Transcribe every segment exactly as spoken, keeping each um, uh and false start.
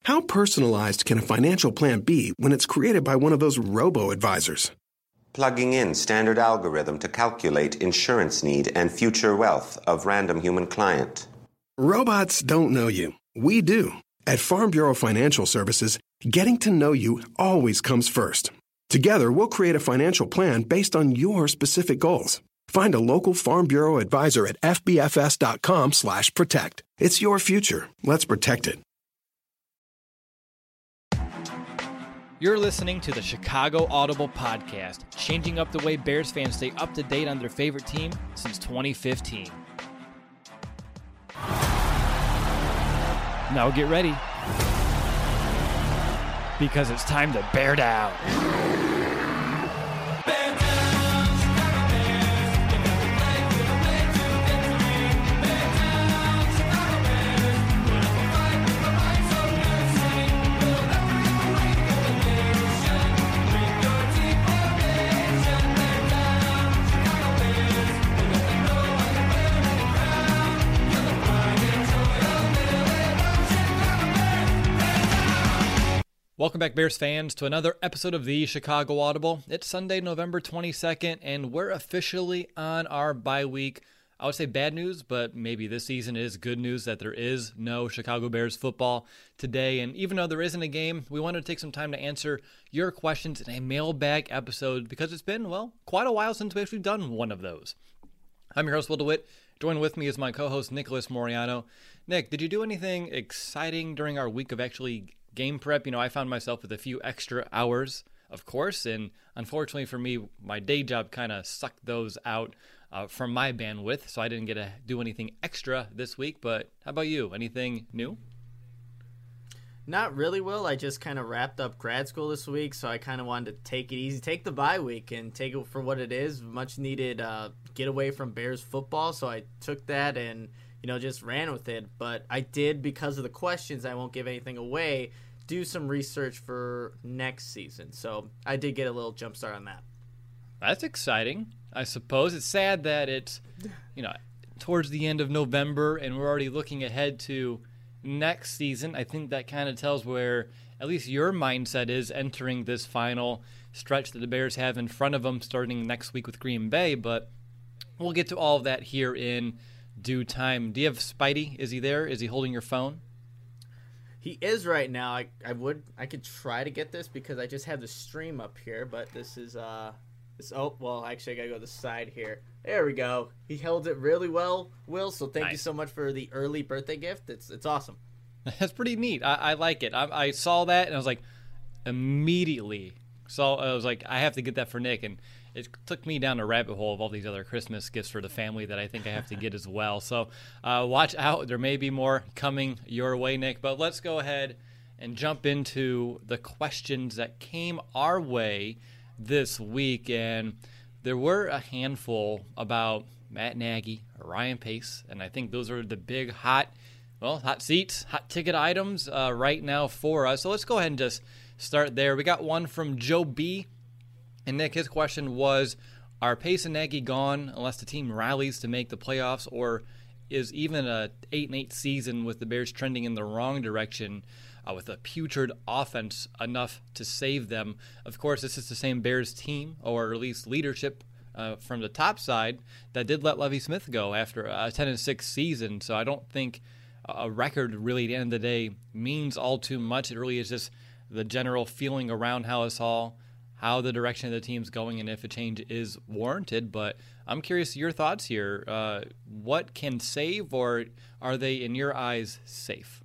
How personalized can a financial plan be when it's created by one of those robo-advisors? Plugging in standard algorithm to calculate insurance need and future wealth of random human client. Robots don't know you. We do. At Farm Bureau Financial Services, getting to know you always comes first. Together, we'll create a financial plan based on your specific goals. Find a local Farm Bureau advisor at fbfs.com slash protect. It's your future. Let's protect it. You're listening to the Chicago Audible Podcast, changing up the way Bears fans stay up to date on their favorite team since twenty fifteen. Now get ready, because it's time to bear down. Welcome back, Bears fans, to another episode of the Chicago Audible. It's Sunday, November twenty-second, and we're officially on our bye week. I would say bad news, but maybe this season is good news that there is no Chicago Bears football today. And even though there isn't a game, we wanted to take some time to answer your questions in a mailbag episode because it's been, well, quite a while since we've actually done one of those. I'm your host, Will DeWitt. Joined with me is my co-host, Nicholas Moriano. Nick, did you do anything exciting during our week of actually game prep? You know, I found myself with a few extra hours, of course, and unfortunately for me, my day job kind of sucked those out uh, from my bandwidth, so I didn't get to do anything extra this week. But how about you? Anything new? Not really, Will. I just kind of wrapped up grad school this week, so I kind of wanted to take it easy, take the bye week and take it for what it is, much needed uh, get away from Bears football. So I took that and, you know, just ran with it. But I did, because of the questions, I won't give anything away, do some research for next season. So I did get a little jump start on that. That's exciting, I suppose. It's sad that it's, you know, towards the end of November and we're already looking ahead to next season. I think that kind of tells where at least your mindset is entering this final stretch that the Bears have in front of them starting next week with Green Bay. But we'll get to all of that here in due time. Do you have Spidey? Is he there? Is he holding your phone? He is right now. I I would I could try to get this because I just have the stream up here, but this is uh this oh well actually I gotta go to the side here. There we go. He held it really well, Will. So thank nice. you so much for the early birthday gift. It's it's awesome. That's pretty neat. I, I like it. I, I saw that and I was like immediately. So I was like, I have to get that for Nick, and it took me down a rabbit hole of all these other Christmas gifts for the family that I think I have to get as well. So uh, watch out. There may be more coming your way, Nick. But let's go ahead and jump into the questions that came our way this week. And there were a handful about Matt Nagy, Ryan Pace, and I think those are the big hot, well, hot seats, hot ticket items uh, right now for us. So let's go ahead and just start there. We got one from Joe B. And Nick, his question was, are Pace and Nagy gone unless the team rallies to make the playoffs, or is even a eight and eight season with the Bears trending in the wrong direction uh, with a putrid offense enough to save them? Of course, this is the same Bears team, or at least leadership uh, from the top side, that did let Lovie Smith go after a ten and six season. So I don't think a record really at the end of the day means all too much. It really is just the general feeling around how it's all, how the direction of the team's going, and if a change is warranted. But I'm curious your thoughts here. Uh, what can save, or are they, in your eyes, safe?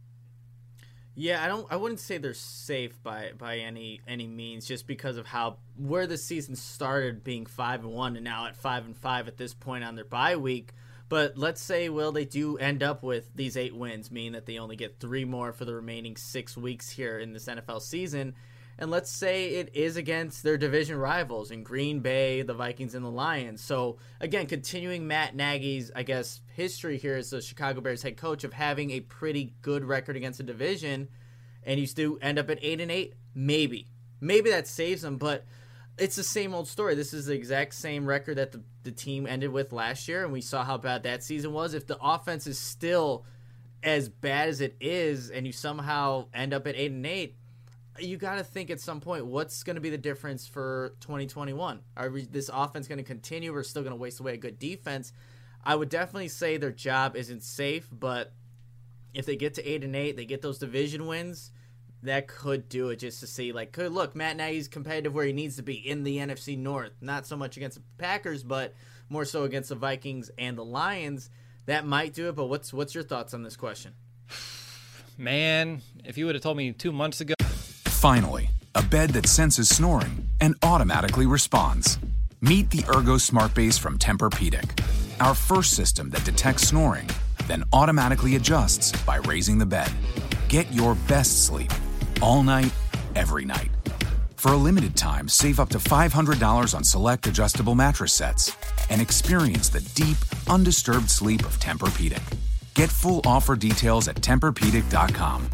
Yeah, I don't. I wouldn't say they're safe by, by any any means, just because of how where the season started, being five and one, and now at five and five at this point on their bye week. But let's say, Will, they do end up with these eight wins, meaning that they only get three more for the remaining six weeks here in this N F L season. And let's say it is against their division rivals in Green Bay, the Vikings, and the Lions. So, again, continuing Matt Nagy's, I guess, history here as the Chicago Bears head coach of having a pretty good record against the division, and you still end up at eight and eight, maybe. Maybe that saves them, but it's the same old story. This is the exact same record that the, the team ended with last year, and we saw how bad that season was. If the offense is still as bad as it is, and you somehow end up at eight and eight, you got to think at some point, what's going to be the difference for twenty twenty-one? Are we, this offense going to continue? We're still going to waste away a good defense. I would definitely say their job isn't safe, but if they get to eight and eight, they get those division wins, that could do it, just to see, like, could look, Matt Nagy's competitive where he needs to be in the N F C North, not so much against the Packers, but more so against the Vikings and the Lions. That might do it, but what's what's your thoughts on this question? Man, if you would have told me two months ago. Finally, a bed that senses snoring and automatically responds. Meet the Ergo Smart Base from Tempur-Pedic, our first system that detects snoring, then automatically adjusts by raising the bed. Get your best sleep all night, every night. For a limited time, save up to five hundred dollars on select adjustable mattress sets and experience the deep, undisturbed sleep of Tempur-Pedic. Get full offer details at Tempur Pedic dot com.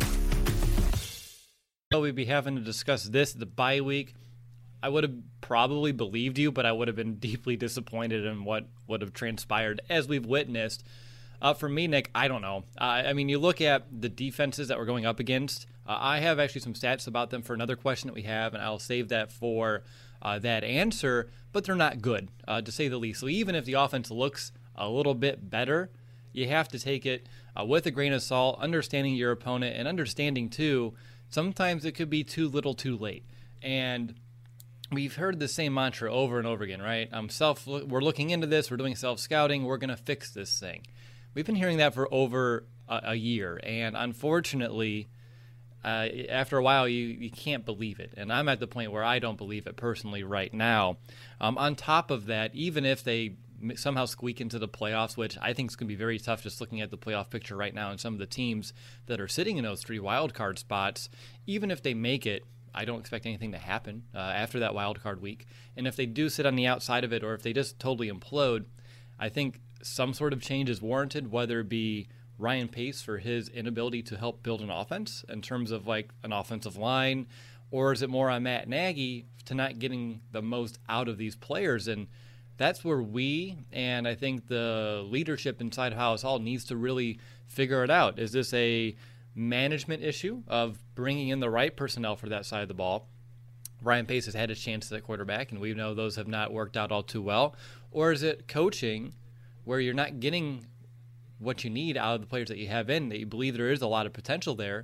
We'd be having to discuss this the bye week. I would have probably believed you, but I would have been deeply disappointed in what would have transpired as we've witnessed. Uh, for me, Nick, I don't know. Uh, I mean, you look at the defenses that we're going up against. Uh, I have actually some stats about them for another question that we have, and I'll save that for uh, that answer, but they're not good, uh, to say the least. So even if the offense looks a little bit better, you have to take it uh, with a grain of salt, understanding your opponent, and understanding, too, sometimes it could be too little too late. And we've heard the same mantra over and over again, right? Um, self, we're looking into this. We're doing self-scouting. We're going to fix this thing. We've been hearing that for over a, a year. And unfortunately, uh, after a while, you, you can't believe it. And I'm at the point where I don't believe it personally right now. Um, on top of that, even if they somehow squeak into the playoffs, which I think is going to be very tough just looking at the playoff picture right now and some of the teams that are sitting in those three wild card spots, even if they make it, I don't expect anything to happen uh, after that wild card week. And if they do sit on the outside of it, or if they just totally implode, I think some sort of change is warranted, whether it be Ryan Pace for his inability to help build an offense in terms of like an offensive line, or is it more on Matt Nagy to not getting the most out of these players? And that's where we, and I think the leadership inside of Halas Hall needs to really figure it out. Is this a management issue of bringing in the right personnel for that side of the ball? Ryan Pace has had his chances at quarterback, and we know those have not worked out all too well. Or is it coaching where you're not getting what you need out of the players that you have in, that you believe there is a lot of potential there?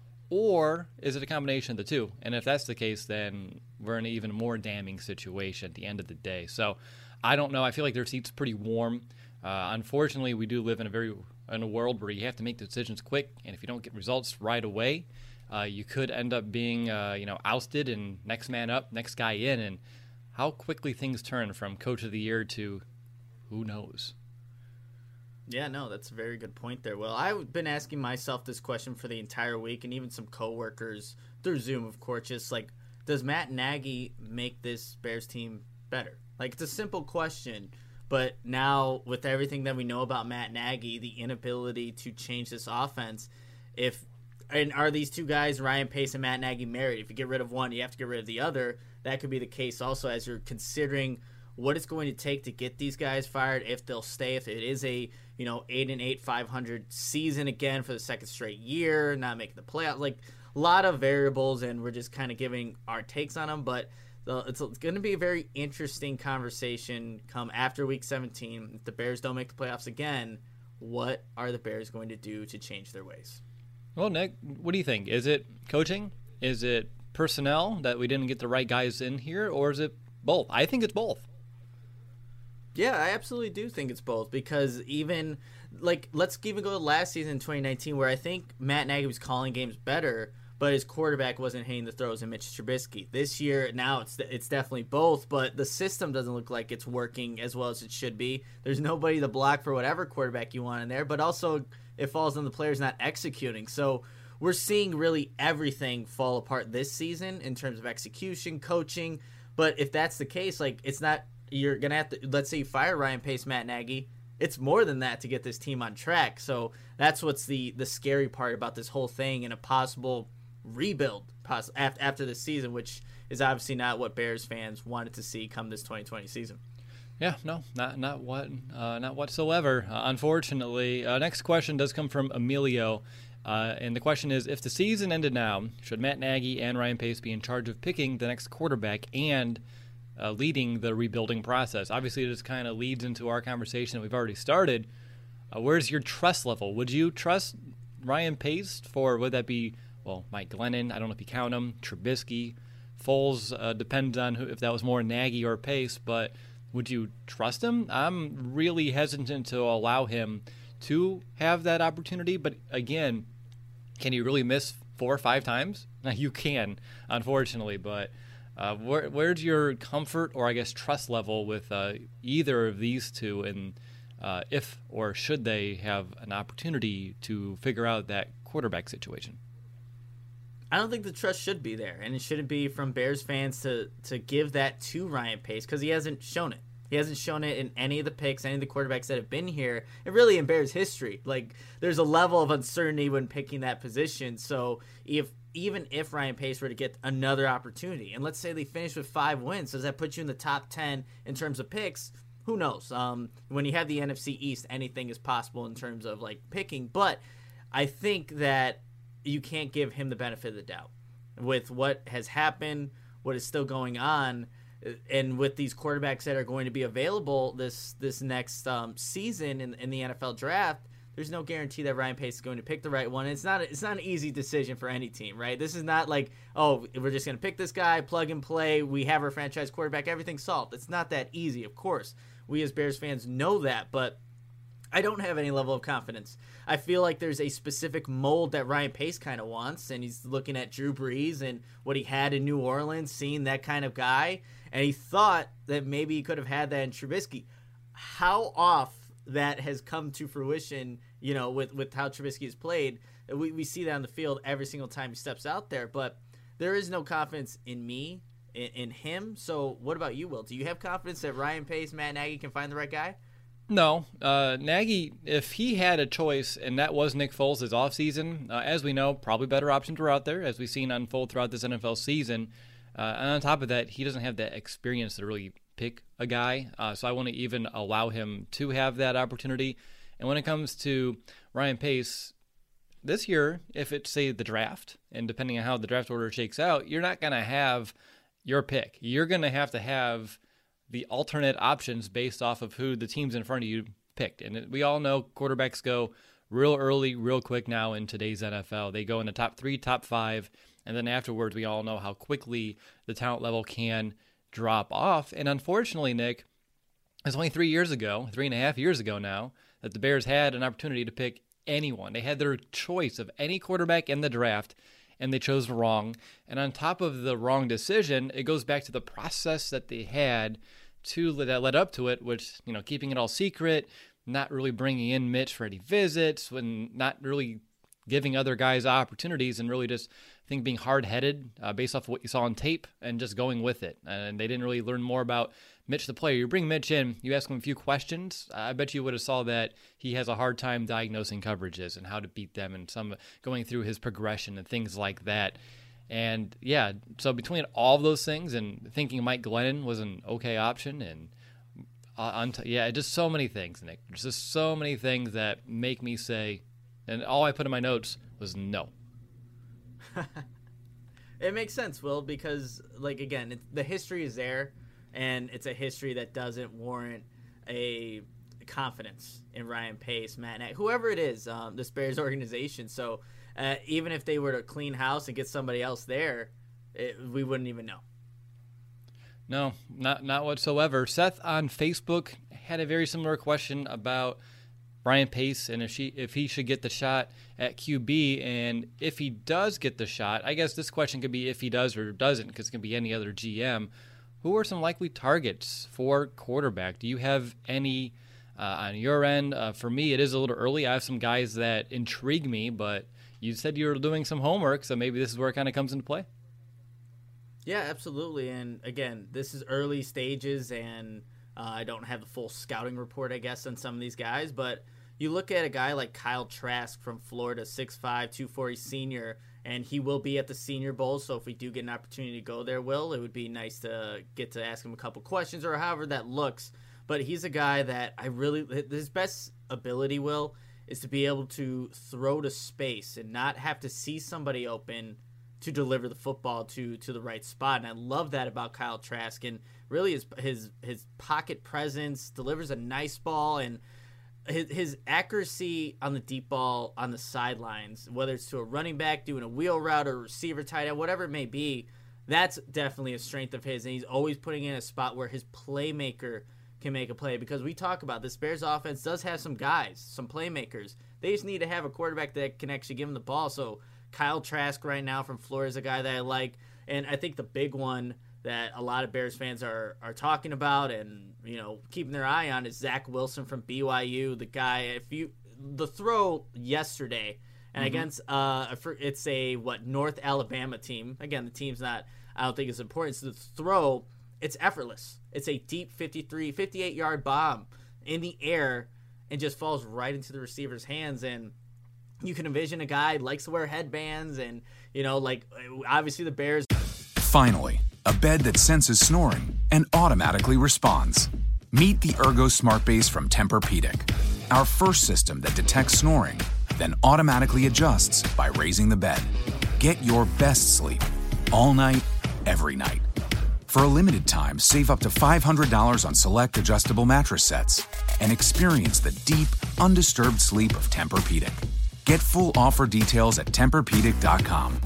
Or is it a combination of the two? And if that's the case, then we're in an even more damning situation at the end of the day. So I don't know. I feel like their seat's pretty warm. Uh, unfortunately, we do live in a very in a world where you have to make decisions quick, and if you don't get results right away, uh, you could end up being uh, you know ousted and next man up, next guy in. And how quickly things turn from coach of the year to who knows. Yeah, no, that's a very good point there. Well, I've been asking myself this question for the entire week, and even some coworkers through Zoom, of course, just like, does Matt Nagy make this Bears team better? Like, it's a simple question, but now with everything that we know about Matt Nagy, the inability to change this offense, if and are these two guys, Ryan Pace and Matt Nagy, married? If you get rid of one, you have to get rid of the other. That could be the case also as you're considering what it's going to take to get these guys fired, if they'll stay, if it is a, you know, eight and eight, five hundred season again for the second straight year, not making the playoffs. Like, a lot of variables, and we're just kind of giving our takes on them, but it's going to be a very interesting conversation come after week seventeen. If the Bears don't make the playoffs again, what are the Bears going to do to change their ways? Well, Nick, what do you think? Is it coaching? Is it personnel that we didn't get the right guys in here? Or is it both? I think it's both. Yeah, I absolutely do think it's both, because even, like, let's even go to last season in twenty nineteen where I think Matt Nagy was calling games better, but his quarterback wasn't hitting the throws in Mitch Trubisky. This year, now it's it's definitely both, but the system doesn't look like it's working as well as it should be. There's nobody to block for whatever quarterback you want in there, but also it falls on the players not executing. So we're seeing really everything fall apart this season in terms of execution, coaching, but if that's the case, like, it's not, you're going to have to, let's say you fire Ryan Pace, Matt Nagy, it's more than that to get this team on track. So that's what's the, the scary part about this whole thing and a possible rebuild poss- after this season, which is obviously not what Bears fans wanted to see come this twenty twenty season. Yeah, no, not not what, uh, not whatsoever. Uh, unfortunately, uh, next question does come from Emilio, uh, and the question is: if the season ended now, should Matt Nagy and Ryan Pace be in charge of picking the next quarterback and uh, leading the rebuilding process? Obviously, this kind of leads into our conversation that we've already started. Uh, where's your trust level? Would you trust Ryan Pace for? Would that be well, Mike Glennon? I don't know if you count him. Trubisky, Foles. Uh, depends on who, if that was more Nagy or Pace, but. Would you trust him? I'm really hesitant to allow him to have that opportunity. But again, can you really miss four or five times? You can, unfortunately. But uh, where, where's your comfort or, I guess, trust level with uh, either of these two? And uh, if or should they have an opportunity to figure out that quarterback situation? I don't think the trust should be there, and it shouldn't be from Bears fans to, to give that to Ryan Pace because he hasn't shown it. He hasn't shown it in any of the picks, any of the quarterbacks that have been here, and really in Bears history. Like, there's a level of uncertainty when picking that position. So if even if Ryan Pace were to get another opportunity, and let's say they finish with five wins, does that put you in the top ten in terms of picks? Who knows? Um, when you have the N F C East, anything is possible in terms of like picking. But I think that you can't give him the benefit of the doubt with what has happened, what is still going on, and with these quarterbacks that are going to be available this this next um, season in, in the N F L draft. There's no guarantee that Ryan Pace is going to pick the right one. It's not it's not an easy decision for any team, right? This is not like, oh, we're just going to pick this guy, plug and play, we have our franchise quarterback, everything's solved. It's not that easy, of course. We as Bears fans know that, but I don't have any level of confidence. I feel like there's a specific mold that Ryan Pace kind of wants, and he's looking at Drew Brees and what he had in New Orleans, seeing that kind of guy, and he thought that maybe he could have had that in Trubisky. How off that has come to fruition, you know, with, with how Trubisky has played. We, we see that on the field every single time he steps out there, but there is no confidence in me, in, in him. So what about you, Will? Do you have confidence that Ryan Pace, Matt Nagy can find the right guy? No. Uh, Nagy, if he had a choice, and that was Nick Foles' his offseason, uh, as we know, probably better options were out there, as we've seen unfold throughout this N F L season. Uh, and on top of that, he doesn't have that experience to really pick a guy, uh, so I wouldn't even allow him to have that opportunity. And when it comes to Ryan Pace, this year, if it's, say, the draft, and depending on how the draft order shakes out, you're not going to have your pick. You're going to have to have the alternate options based off of who the teams in front of you picked. And we all know quarterbacks go real early, real quick now in today's N F L. They go in the top three, top five, and then afterwards we all know how quickly the talent level can drop off. And unfortunately, Nick, it's only three years ago, three and a half years ago now, that the Bears had an opportunity to pick anyone. They had their choice of any quarterback in the draft, and they chose wrong. And on top of the wrong decision, it goes back to the process that they had to that led up to it, which, you know, keeping it all secret, not really bringing in Mitch for any visits, when not really giving other guys opportunities, and really just, I think, being hard-headed uh, based off of what you saw on tape and just going with it. And they didn't really learn more about Mitch the player. You bring Mitch in, you ask him a few questions, I bet you would have saw that he has a hard time diagnosing coverages and how to beat them, and some going through his progression and things like that. And yeah, so between all of those things and thinking Mike Glennon was an okay option, and uh, on t- yeah, just so many things, Nick. There's just so many things that make me say, and all I put in my notes was no. It makes sense, Will, because, like, again, it, the history is there, and it's a history that doesn't warrant a confidence in Ryan Pace, Matt Nagy, whoever it is, um, this Bears organization. So uh, even if they were to clean house and get somebody else there, it, we wouldn't even know. No, not not whatsoever. Seth on Facebook had a very similar question about Ryan Pace and if she if he should get the shot at Q B, and if he does get the shot, I guess this question could be if he does or doesn't, because it can be any other G M. Who are some likely targets for quarterback? Do you have any uh, on your end? Uh, for me, it is a little early. I have some guys that intrigue me, but you said you were doing some homework, so maybe this is where it kind of comes into play. Yeah, absolutely. And again, this is early stages, and uh, I don't have the full scouting report, I guess, on some of these guys. But you look at a guy like Kyle Trask from Florida, six five, two forty senior, and he will be at the Senior Bowl. So if we do get an opportunity to go there, Will, it would be nice to get to ask him a couple questions or however that looks. but he's a guy that I really his best ability, Will, is to be able to throw to space and not have to see somebody open to deliver the football to to the right spot. And I love that about Kyle Trask. And really his his his pocket presence, delivers a nice ball, and his, his accuracy on the deep ball on the sidelines, whether it's to a running back doing a wheel route or receiver tight end, whatever it may be, that's definitely a strength of his. And he's always putting in a spot where his playmaker can make a play, because we talk about this Bears offense does have some guys, some playmakers. They just need to have a quarterback that can actually give them the ball. So Kyle Trask right now from Florida is a guy that I like. And I think the big one that a lot of Bears fans are are talking about and, you know, keeping their eye on is Zach Wilson from B Y U. The guy, if you the throw yesterday, and mm-hmm. against uh, it's a what North Alabama team. Again, the team's not, I don't think it's important. So the throw, it's effortless. It's a deep fifty-three, fifty-eight yard bomb in the air and just falls right into the receiver's hands. And you can envision a guy likes to wear headbands, and, you know, like obviously the Bears. Finally, a bed that senses snoring and automatically responds. Meet the Ergo Smart Base from Tempur-Pedic, our first system that detects snoring, then automatically adjusts by raising the bed. Get your best sleep all night, every night. For a limited time, save up to five hundred dollars on select adjustable mattress sets and experience the deep, undisturbed sleep of Tempur-Pedic. Get full offer details at Tempur Pedic dot com.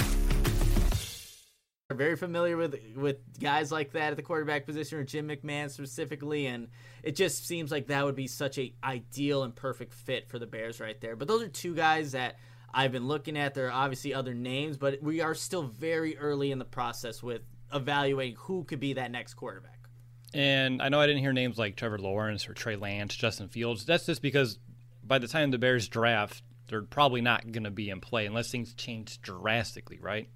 We're very familiar with with guys like that at the quarterback position, or Jim McMahon specifically, and it just seems like that would be such a ideal and perfect fit for the Bears right there. But those are two guys that I've been looking at. There are obviously other names, but we are still very early in the process with evaluating who could be that next quarterback. And I know I didn't hear names like Trevor Lawrence or Trey Lance, Justin Fields. That's just because by the time the Bears draft, they're probably not going to be in play unless things change drastically, right?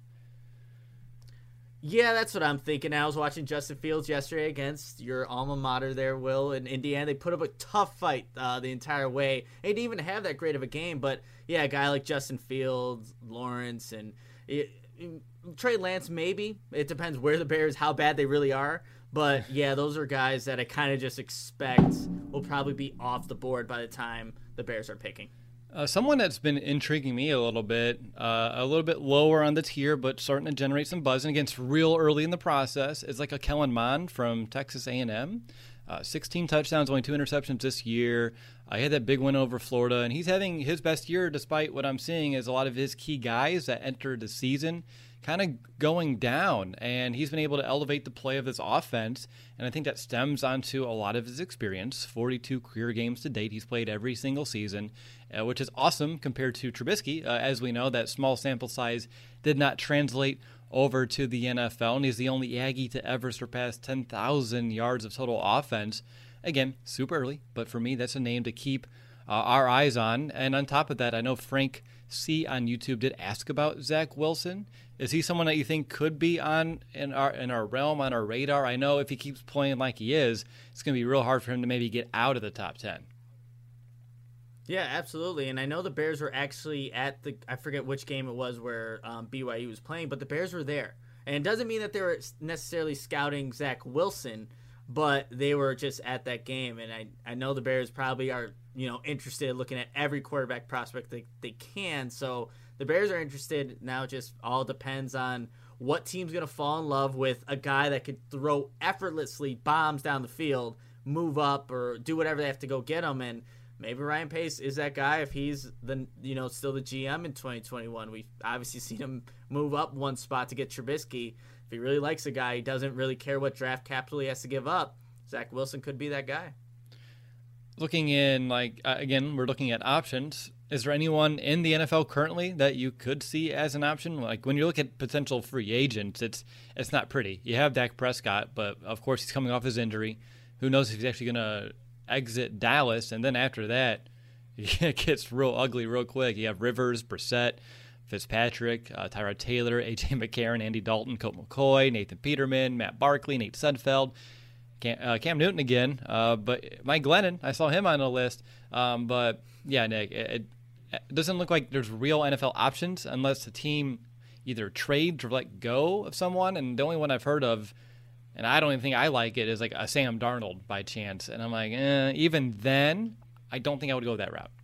Yeah, that's what I'm thinking. I was watching Justin Fields yesterday against your alma mater there, Will, in Indiana. They put up a tough fight uh, the entire way. They didn't even have that great of a game, but yeah, a guy like Justin Fields, Lawrence, and it, it, Trey Lance, maybe. It depends where the Bears, how bad they really are. But yeah, those are guys that I kind of just expect will probably be off the board by the time the Bears are picking. Uh, someone that's been intriguing me a little bit, uh, a little bit lower on the tier, but starting to generate some buzz, and against real early in the process, is like a Kellen Mond from Texas A and M. Uh, sixteen touchdowns, only two interceptions this year. I uh, had that big win over Florida, and he's having his best year despite what I'm seeing is a lot of his key guys that entered the season kind of going down, and he's been able to elevate the play of this offense, and I think that stems onto a lot of his experience. forty-two career games to date. He's played every single season, uh, which is awesome compared to Trubisky. Uh, as we know, that small sample size did not translate over to the N F L, and he's the only Aggie to ever surpass ten thousand yards of total offense. Again, super early, but for me, that's a name to keep uh, our eyes on. And on top of that, I know Frank C on YouTube did ask about Zach Wilson. Is he someone that you think could be on in our in our realm, on our radar? I know if he keeps playing like he is, it's going to be real hard for him to maybe get out of the top ten. Yeah, absolutely. And I know the Bears were actually at the, I forget which game it was where um, B Y U was playing, but the Bears were there. And it doesn't mean that they were necessarily scouting Zach Wilson, but they were just at that game. And I, I know the Bears probably are, you know, interested in looking at every quarterback prospect they, they can. So the Bears are interested. Now it just all depends on what team's going to fall in love with a guy that could throw effortlessly bombs down the field, move up, or do whatever they have to go get him. And maybe Ryan Pace is that guy if he's the, you know, still the G M in twenty twenty-one. We've obviously seen him move up one spot to get Trubisky. If he really likes a guy, he doesn't really care what draft capital he has to give up. Zach Wilson could be that guy. Looking in, like, uh, again, we're looking at options. Is there anyone in the N F L currently that you could see as an option? Like, when you look at potential free agents, it's it's not pretty. You have Dak Prescott, but, of course, he's coming off his injury. Who knows if he's actually going to exit Dallas, and then after that, it gets real ugly real quick. You have Rivers, Brissett, Fitzpatrick, uh, Tyrod Taylor, A J McCarron, Andy Dalton, Colt McCoy, Nathan Peterman, Matt Barkley, Nate Sudfeld, Cam, uh, Cam Newton again, uh, but Mike Glennon, I saw him on the list. Um, but, yeah, Nick, it, it doesn't look like there's real N F L options unless the team either trades or let go of someone, and the only one I've heard of and I don't even think I like it, is like a Sam Darnold by chance. And I'm like, eh, even then, I don't think I would go that route.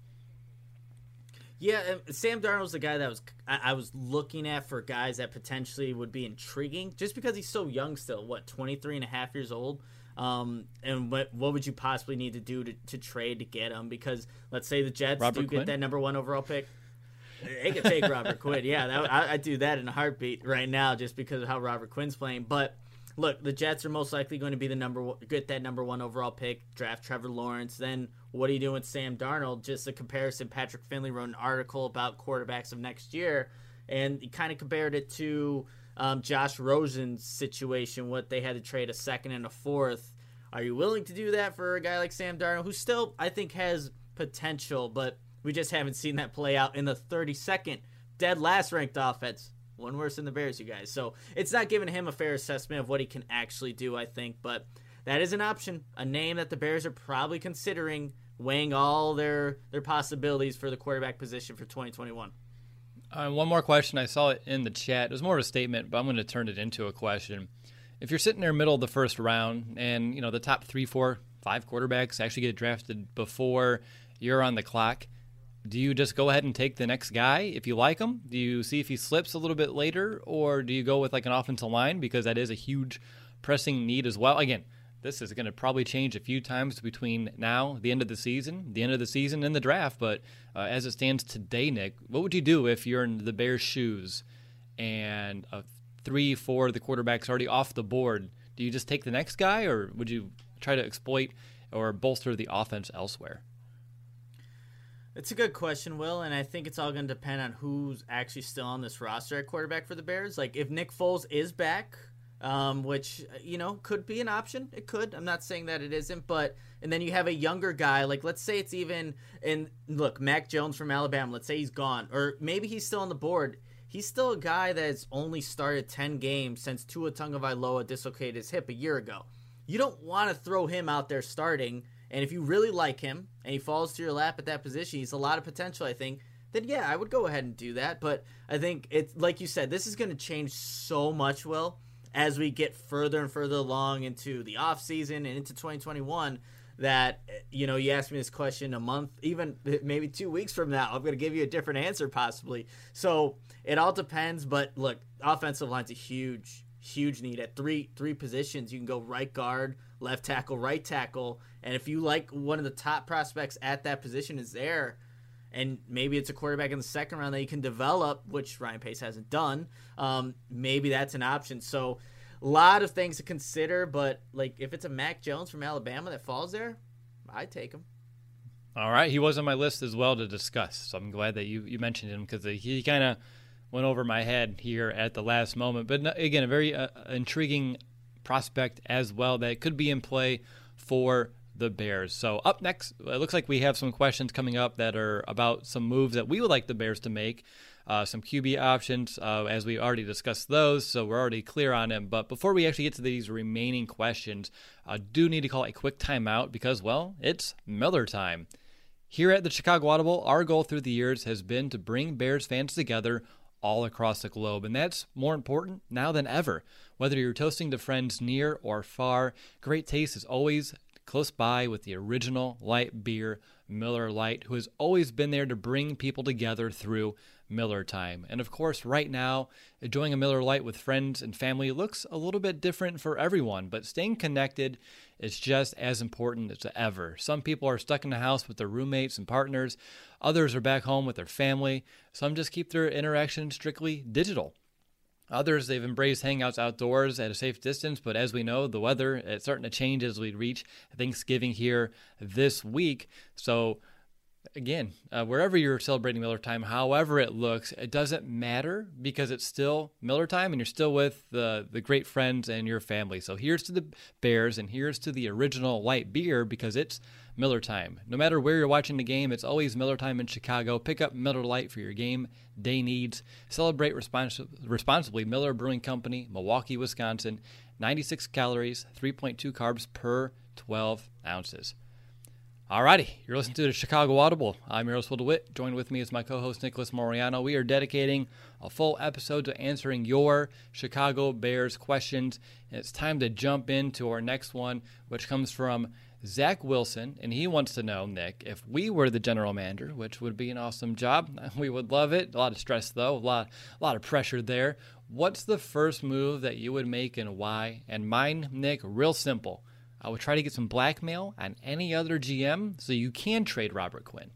Yeah, Sam Darnold's the guy that was I, I was looking at for guys that potentially would be intriguing, just because he's so young still. What, twenty-three and a half years old? Um, and what what would you possibly need to do to, to trade to get him? Because let's say the Jets Robert do Quinn? get that number one overall pick. They could take Robert Quinn. Yeah, that, I, I'd do that in a heartbeat right now just because of how Robert Quinn's playing. But look, the Jets are most likely going to be the number one, get that number one overall pick, draft Trevor Lawrence. Then what are you doing with Sam Darnold? Just a comparison. Patrick Finley wrote an article about quarterbacks of next year, and he kind of compared it to um, Josh Rosen's situation, what they had to trade a second and a fourth. Are you willing to do that for a guy like Sam Darnold, who still, I think, has potential, but we just haven't seen that play out in the thirty-second dead last ranked offense. One worse than the Bears, you guys. So it's not giving him a fair assessment of what he can actually do, I think. But that is an option, a name that the Bears are probably considering, weighing all their, their possibilities for the quarterback position for twenty twenty-one. Uh, one more question. I saw it in the chat. It was more of a statement, but I'm going to turn it into a question. If you're sitting there middle of the first round and, you know, the top three, four, five quarterbacks actually get drafted before you're on the clock, do you just go ahead and take the next guy if you like him? Do you see if he slips a little bit later, or do you go with like an offensive line, because that is a huge pressing need as well? Again, this is going to probably change a few times between now, the end of the season, the end of the season, and the draft. But uh, as it stands today, Nick, what would you do if you're in the Bears' shoes and a three, four of the quarterbacks already off the board? Do you just take the next guy, or would you try to exploit or bolster the offense elsewhere? It's a good question, Will, and I think it's all going to depend on who's actually still on this roster at quarterback for the Bears. Like, if Nick Foles is back, um, which, you know, could be an option. It could. I'm not saying that it isn't, but and then you have a younger guy. Like, let's say it's even, and look, Mac Jones from Alabama, let's say he's gone, or maybe he's still on the board. He's still a guy that's only started ten games since Tua Tagovailoa dislocated his hip a year ago. You don't want to throw him out there starting. And if you really like him and he falls to your lap at that position, he's a lot of potential, I think, then yeah, I would go ahead and do that. But I think it's like you said, this is going to change so much, Will, as we get further and further along into the offseason and into twenty twenty-one, that, you know, you asked me this question a month, even maybe two weeks from now, I'm going to give you a different answer possibly. So it all depends. But look, offensive line's a huge, huge need at three three positions. You can go right guard, left tackle, right tackle. And if you like one of the top prospects at that position is there, and maybe it's a quarterback in the second round that you can develop, which Ryan Pace hasn't done, um, maybe that's an option. So a lot of things to consider, but like if it's a Mac Jones from Alabama that falls there, I'd take him. All right. He was on my list as well to discuss, so I'm glad that you, you mentioned him, because he kind of went over my head here at the last moment. But again, a very uh, intriguing prospect as well that could be in play for the Bears. So up next, it looks like we have some questions coming up that are about some moves that we would like the Bears to make, uh, some Q B options, uh, as we already discussed those, so we're already clear on them. But before we actually get to these remaining questions, I do need to call a quick timeout because, well, it's Miller time. Here at the Chicago Audible, our goal through the years has been to bring Bears fans together all across the globe, and that's more important now than ever. Whether you're toasting to friends near or far, great taste is always close by with the original light beer, Miller Lite, who has always been there to bring people together through Miller time. And of course, right now, enjoying a Miller Lite with friends and family looks a little bit different for everyone, but staying connected is just as important as ever. Some people are stuck in the house with their roommates and partners. Others are back home with their family. Some just keep their interaction strictly digital. Others, they've embraced hangouts outdoors at a safe distance, but as we know, the weather is starting to change as we reach Thanksgiving here this week. So again, uh, wherever you're celebrating Miller time, however it looks, it doesn't matter because it's still Miller time and you're still with the, the great friends and your family. So here's to the Bears and here's to the original light beer because it's Miller time. No matter where you're watching the game, it's always Miller time in Chicago. Pick up Miller Lite for your game day needs. Celebrate respons- responsibly. Miller Brewing Company, Milwaukee, Wisconsin. ninety-six calories, three point two carbs per twelve ounces. Alrighty, you're listening to the Chicago Audible. I'm Earlswell DeWitt. Joined with me is my co-host Nicholas Moriano. We are dedicating a full episode to answering your Chicago Bears questions. And it's time to jump into our next one, which comes from Zach Wilson. And he wants to know, Nick, if we were the general manager, which would be an awesome job, we would love it. A lot of stress, though, a lot, a lot of pressure there. What's the first move that you would make and why? And mine, Nick, real simple. I would try to get some blackmail on any other G M so you can trade Robert Quinn.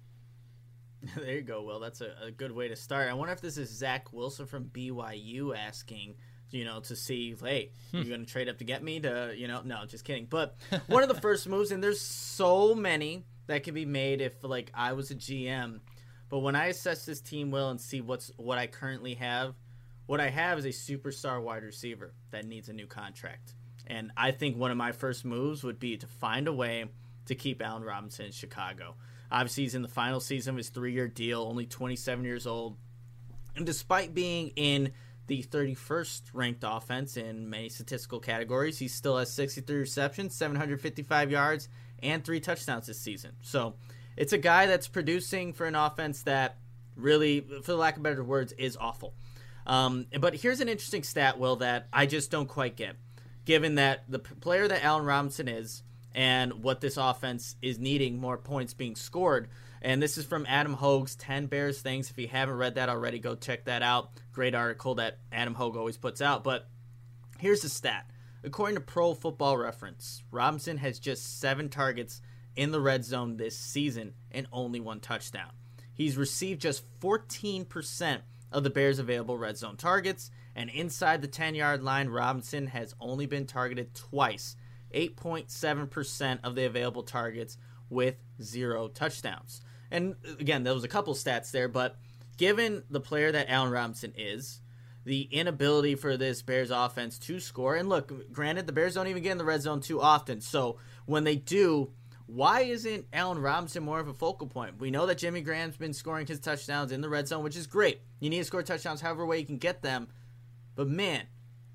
There you go, Will. That's a, a good way to start. I wonder if this is Zach Wilson from B Y U asking, you know, to see, hey, hmm. you're going to trade up to get me to, you know, no, just kidding. But one of the first moves, and there's so many that could be made if, like, I was a G M. But when I assess this team, Will, and see what's what I currently have, what I have is a superstar wide receiver that needs a new contract. And I think one of my first moves would be to find a way to keep Allen Robinson in Chicago. Obviously, he's in the final season of his three-year deal, only twenty-seven years old. And despite being in the thirty-first ranked offense in many statistical categories, he still has sixty-three receptions, seven hundred fifty-five yards, and three touchdowns this season. So it's a guy that's producing for an offense that really, for the lack of better words, is awful. Um, but here's an interesting stat, Will, that I just don't quite get. Given that the player that Allen Robinson is and what this offense is needing, more points being scored. And this is from Adam Hogue's ten Bears Things. If you haven't read that already, go check that out. Great article that Adam Hogue always puts out. But here's the stat. According to Pro Football Reference, Robinson has just seven targets in the red zone this season and only one touchdown. He's received just fourteen percent of the Bears' available red zone targets. And inside the ten-yard line, Robinson has only been targeted twice, eight point seven percent of the available targets with zero touchdowns. And again, there was a couple stats there, but given the player that Allen Robinson is, the inability for this Bears offense to score, and look, granted, the Bears don't even get in the red zone too often, so when they do, why isn't Allen Robinson more of a focal point? We know that Jimmy Graham's been scoring his touchdowns in the red zone, which is great. You need to score touchdowns however way you can get them. But, man,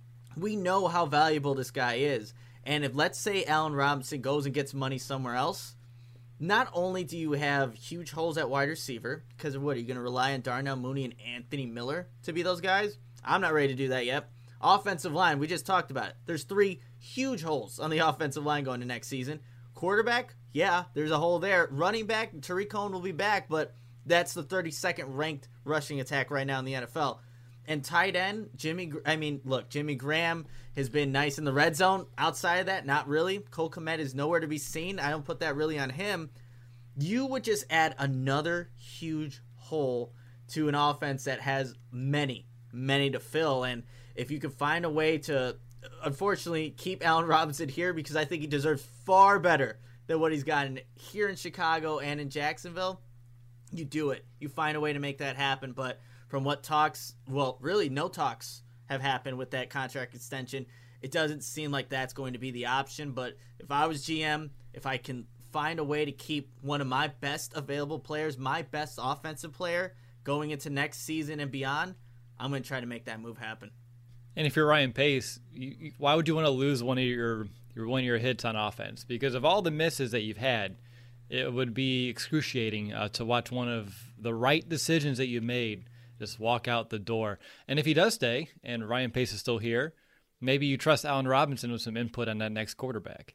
we know how valuable this guy is. And if, let's say, Allen Robinson goes and gets money somewhere else, not only do you have huge holes at wide receiver, because of what, are you going to rely on Darnell Mooney and Anthony Miller to be those guys? I'm not ready to do that yet. Offensive line, we just talked about it. There's three huge holes on the offensive line going to next season. Quarterback, yeah, there's a hole there. Running back, Tariq Cohen will be back, but that's the thirty-second ranked rushing attack right now in the N F L. And tight end, Jimmy, I mean, look, Jimmy Graham has been nice in the red zone. Outside of that, not really. Cole Kmet is nowhere to be seen. I don't put that really on him. You would just add another huge hole to an offense that has many, many to fill. And if you could find a way to, unfortunately, keep Allen Robinson here, because I think he deserves far better than what he's gotten here in Chicago and in Jacksonville, you do it. You find a way to make that happen. But from what talks, well, really no talks have happened with that contract extension, it doesn't seem like that's going to be the option. But if I was G M, if I can find a way to keep one of my best available players, my best offensive player, going into next season and beyond, I'm going to try to make that move happen. And if you're Ryan Pace, you, you, why would you want to lose one of your, your one of your hits on offense? Because of all the misses that you've had, it would be excruciating uh, to watch one of the right decisions that you made just walk out the door. And if he does stay, and Ryan Pace is still here, maybe you trust Allen Robinson with some input on that next quarterback.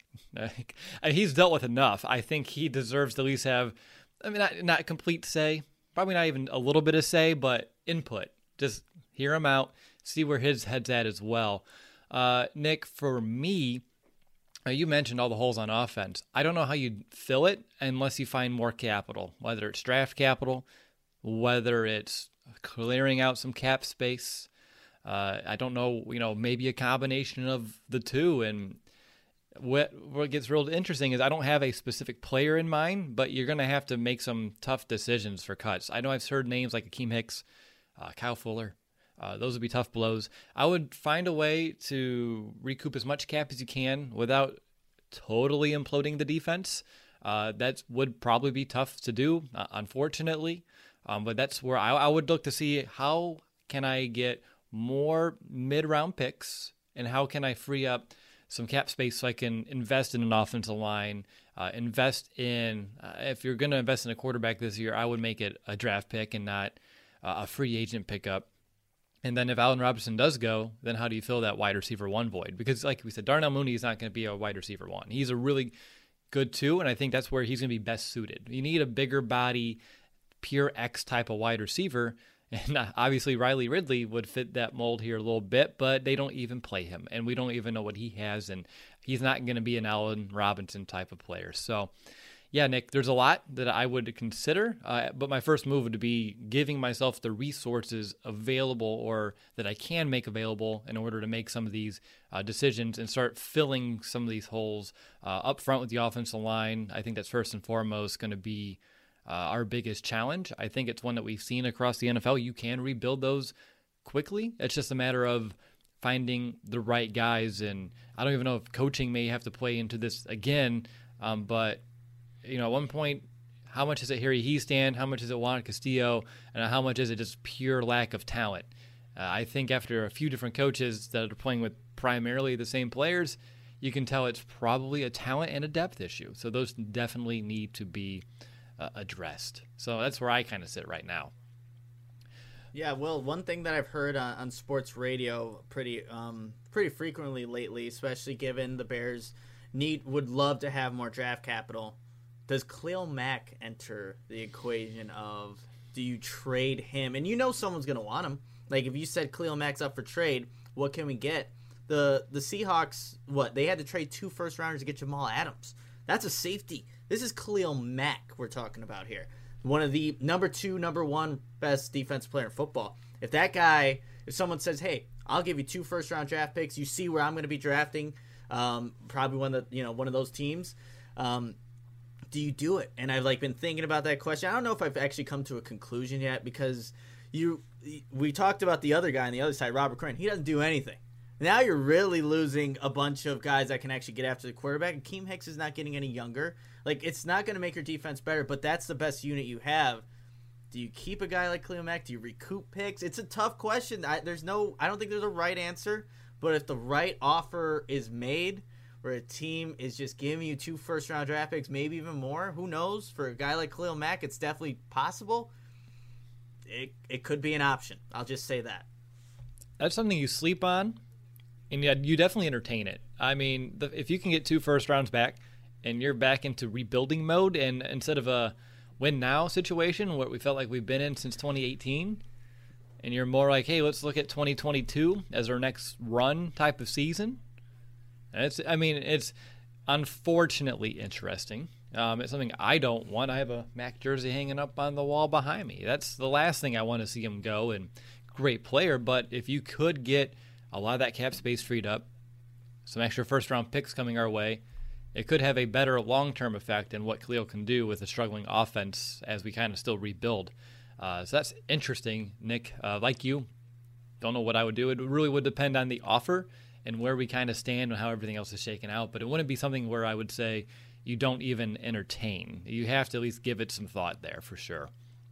He's dealt with enough. I think he deserves to at least have, I mean, not, not complete say, probably not even a little bit of say, but input. Just hear him out, see where his head's at as well. Uh, Nick, for me, uh, you mentioned all the holes on offense. I don't know how you'd fill it unless you find more capital, whether it's draft capital, whether it's clearing out some cap space. Uh, I don't know, you know, maybe a combination of the two. And what what gets real interesting is I don't have a specific player in mind, but you're going to have to make some tough decisions for cuts. I know I've heard names like Akeem Hicks, uh, Kyle Fuller. Uh, those would be tough blows. I would find a way to recoup as much cap as you can without totally imploding the defense. Uh, that would probably be tough to do, uh, unfortunately. Um, but that's where I, I would look to see how can I get more mid-round picks and how can I free up some cap space so I can invest in an offensive line, uh, invest in, uh, if you're going to invest in a quarterback this year, I would make it a draft pick and not uh, a free agent pickup. And then if Allen Robinson does go, then how do you fill that wide receiver one void? Because like we said, Darnell Mooney is not going to be a wide receiver one. He's a really good two, and I think that's where he's going to be best suited. You need a bigger body, pure X type of wide receiver. And obviously Riley Ridley would fit that mold here a little bit, but they don't even play him, and we don't even know what he has, and he's not going to be an Allen Robinson type of player. So, yeah, Nick, there's a lot that I would consider, uh, but my first move would be giving myself the resources available or that I can make available in order to make some of these uh, decisions and start filling some of these holes uh, up front with the offensive line. I think that's first and foremost going to be Uh, our biggest challenge. I think it's one that we've seen across the N F L. You can rebuild those quickly. It's just a matter of finding the right guys. And I don't even know if coaching may have to play into this again. Um, but, you know, at one point, how much is it Harry Hiestand? How much is it Juan Castillo? And how much is it just pure lack of talent? Uh, I think after a few different coaches that are playing with primarily the same players, you can tell it's probably a talent and a depth issue. So those definitely need to be Uh, addressed. So that's where I kind of sit right now. Yeah, well, one thing that I've heard on, on sports radio pretty um, pretty frequently lately, especially given the Bears need would love to have more draft capital, does Khalil Mack enter the equation of do you trade him? And you know someone's going to want him. Like if you said Khalil Mack's up for trade, what can we get? The the Seahawks, what? They had to trade two first rounders to get Jamal Adams. That's a safety. This is Khalil Mack we're talking about here. One of the number two, number one best defensive player in football. If that guy, if someone says, hey, I'll give you two first-round draft picks, you see where I'm going to be drafting, um, probably one of the, you know, one of those teams, um, do you do it? And I've like been thinking about that question. I don't know if I've actually come to a conclusion yet because you, we talked about the other guy on the other side, Robert Quinn. He doesn't do anything. Now you're really losing a bunch of guys that can actually get after the quarterback. And Akeem Hicks is not getting any younger. Like, it's not going to make your defense better, but that's the best unit you have. Do you keep a guy like Khalil Mack? Do you recoup picks? It's a tough question. I, there's no, I don't think there's a right answer. But if the right offer is made, where a team is just giving you two first-round draft picks, maybe even more, who knows? For a guy like Khalil Mack, it's definitely possible. It it could be an option. I'll just say that. That's something you sleep on. And yeah, you definitely entertain it. I mean, the, if you can get two first rounds back and you're back into rebuilding mode, and instead of a win now situation, what we felt like we've been in since twenty eighteen, and you're more like, hey, let's look at twenty twenty-two as our next run type of season. And it's, I mean, it's unfortunately interesting. Um, it's something I don't want. I have a Mac jersey hanging up on the wall behind me. That's the last thing I want to see him go. And great player, but if you could get a lot of that cap space freed up, some extra first-round picks coming our way, it could have a better long-term effect in what Khalil can do with a struggling offense as we kind of still rebuild. Uh, so that's interesting, Nick. Uh, like you, don't know what I would do. It really would depend on the offer and where we kind of stand and how everything else is shaken out. But it wouldn't be something where I would say you don't even entertain. You have to at least give it some thought there for sure.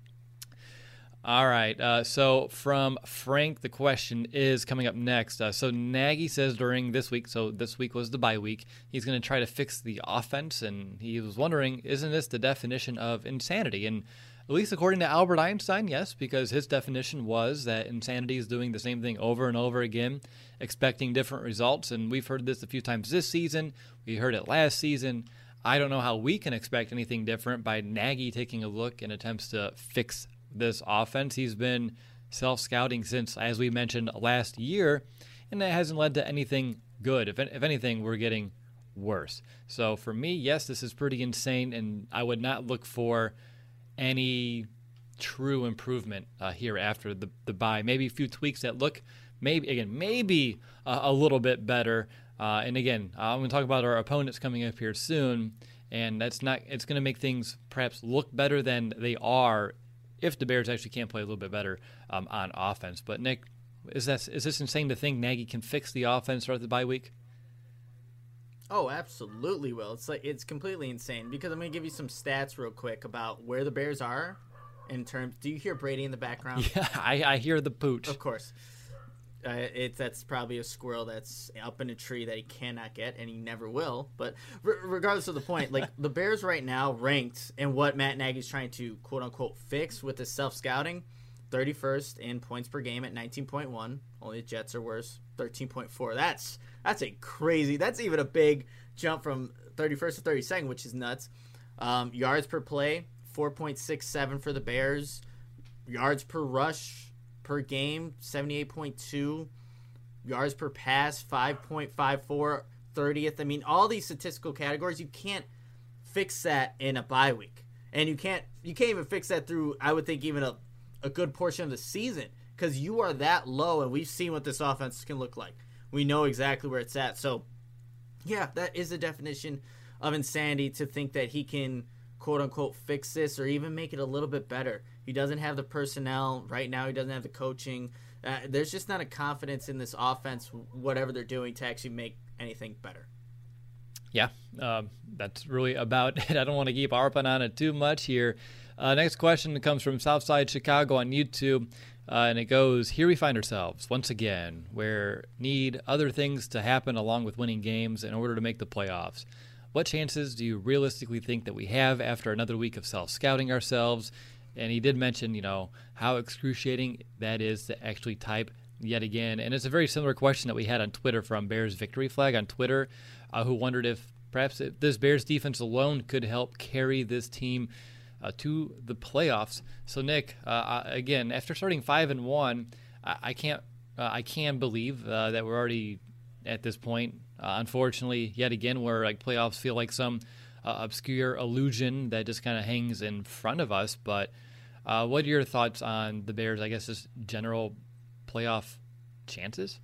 All right, uh, so from Frank, the question is coming up next. Uh, so Nagy says during this week, so this week was the bye week, he's going to try to fix the offense, and he was wondering, isn't this the definition of insanity? And at least according to Albert Einstein, yes, because his definition was that insanity is doing the same thing over and over again, expecting different results, and we've heard this a few times this season. We heard it last season. I don't know how we can expect anything different by Nagy taking a look and attempts to fix this offense. He's been self-scouting since, as we mentioned, last year, and that hasn't led to anything good. If, if anything, we're getting worse. So for me, yes, this is pretty insane, and I would not look for any true improvement uh, here after the, the bye. Maybe a few tweaks that look, maybe, again, maybe uh, a little bit better. Uh, and again, I'm going to talk about our opponents coming up here soon, and that's not, it's going to make things perhaps look better than they are if the Bears actually can play a little bit better um, on offense. But, Nick, is that is this insane to think Nagy can fix the offense throughout the bye week? Oh, absolutely will. It's like it's completely insane because I'm going to give you some stats real quick about where the Bears are in terms. Do you hear Brady in the background? Yeah, I, I hear the pooch. Of course. Uh, it's that's probably a squirrel that's up in a tree that he cannot get, and he never will. But re- regardless of the point, like the Bears right now ranked in what Matt Nagy's trying to quote unquote fix with his self scouting, thirty-first in points per game at nineteen point one. Only the Jets are worse, thirteen point four. That's that's a crazy. That's even a big jump from thirty-first to thirty-second, which is nuts. Um, yards per play, four point six seven for the Bears. Yards per rush per game, seventy-eight point two. Yards per pass, five point five four, thirtieth. I mean, all these statistical categories, you can't fix that in a bye week. And you can't you can't even fix that through, I would think, even a, a good portion of the season, because you are that low, and we've seen what this offense can look like. We know exactly where it's at. So, yeah, that is the definition of insanity to think that he can, quote-unquote, fix this or even make it a little bit better. He doesn't have the personnel. Right now he doesn't have the coaching. Uh, there's just not a confidence in this offense, whatever they're doing, to actually make anything better. Yeah, um, that's really about it. I don't want to keep harping on it too much here. Uh, next question comes from Southside Chicago on YouTube, uh, and it goes, here we find ourselves once again where need other things to happen along with winning games in order to make the playoffs. What chances do you realistically think that we have after another week of self-scouting ourselves? And he did mention, you know, how excruciating that is to actually type yet again. And it's a very similar question that we had on Twitter from Bears Victory Flag on Twitter, uh, who wondered if perhaps this Bears defense alone could help carry this team uh, to the playoffs. So, Nick, uh, again, after starting five and one, I, I can't, uh, I can believe uh, that we're already at this point. Uh, unfortunately, yet again, where like playoffs feel like some uh, obscure illusion that just kind of hangs in front of us. But uh, what are your thoughts on the Bears, I guess, just general playoff chances?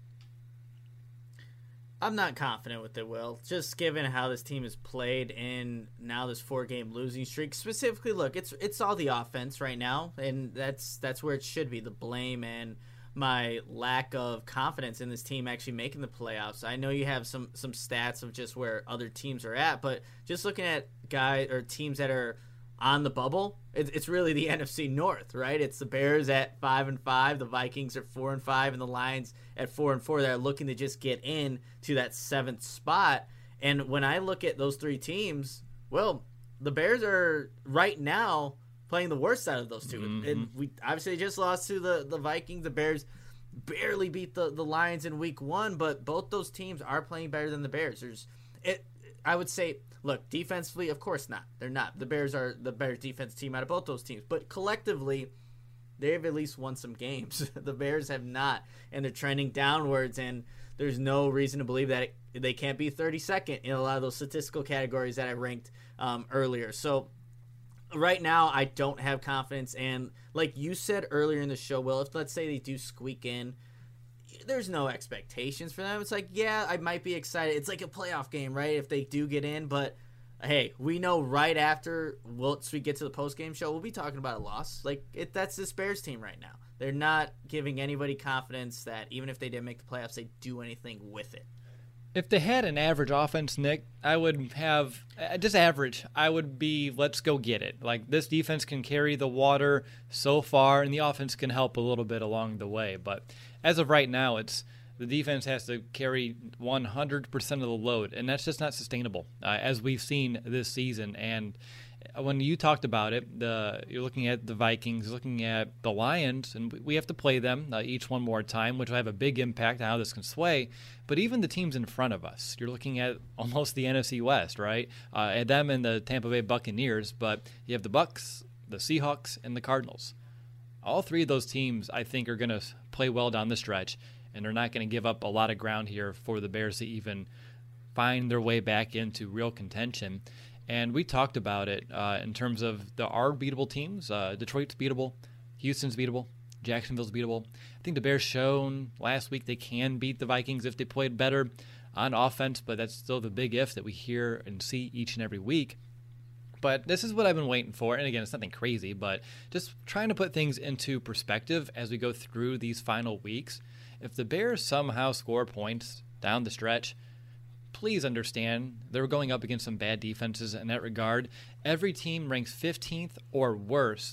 I'm not confident with it, Will. Just given how this team has played in now this four-game losing streak. Specifically, look, it's it's all the offense right now, and that's that's where it should be, the blame and my lack of confidence in this team actually making the playoffs. I know you have some some stats of just where other teams are at, but just looking at guys or teams that are on the bubble, it, it's really the N F C North, right? It's the Bears at five and five, the Vikings are four and five, and the Lions at four and four that are looking to just get in to that seventh spot. And when I look at those three teams, well, the Bears are right now playing the worst out of those two. Mm-hmm. And we obviously just lost to the, the Vikings. The Bears barely beat the, the Lions in week one, but both those teams are playing better than the Bears. There's it I would say, look, defensively, of course not. They're not. The Bears are the Bears defense team out of both those teams. But collectively, they've at least won some games. The Bears have not, and they're trending downwards, and there's no reason to believe that it, they can't be thirty-second in a lot of those statistical categories that I ranked um, earlier. So right now, I don't have confidence. And like you said earlier in the show, Will, if let's say they do squeak in, there's no expectations for them. It's like, yeah, I might be excited. It's like a playoff game, right? If they do get in, but hey, we know right after once we get to the post-game show, we'll be talking about a loss. Like it, that's this Bears team right now. They're not giving anybody confidence that even if they didn't make the playoffs, they do anything with it. If they had an average offense, Nick, I would have just average. I would be, let's go get it. Like this defense can carry the water so far, and the offense can help a little bit along the way. But as of right now, it's the defense has to carry one hundred percent of the load, and that's just not sustainable, uh, as we've seen this season. And when you talked about it, the you're looking at the Vikings, looking at the Lions, and we have to play them uh, each one more time, which will have a big impact on how this can sway. But even the teams in front of us, you're looking at almost the N F C West, right? Uh, at them and the Tampa Bay Buccaneers, but you have the Bucs, the Seahawks, and the Cardinals. All three of those teams, I think, are going to play well down the stretch, and they're not going to give up a lot of ground here for the Bears to even find their way back into real contention. And we talked about it uh, in terms of the our beatable teams. Uh, Detroit's beatable, Houston's beatable, Jacksonville's beatable. I think the Bears shown last week they can beat the Vikings if they played better on offense, but that's still the big if that we hear and see each and every week. But this is what I've been waiting for. And again, it's nothing crazy, but just trying to put things into perspective as we go through these final weeks. If the Bears somehow score points down the stretch, please understand they're going up against some bad defenses in that regard. Every team ranks fifteenth or worse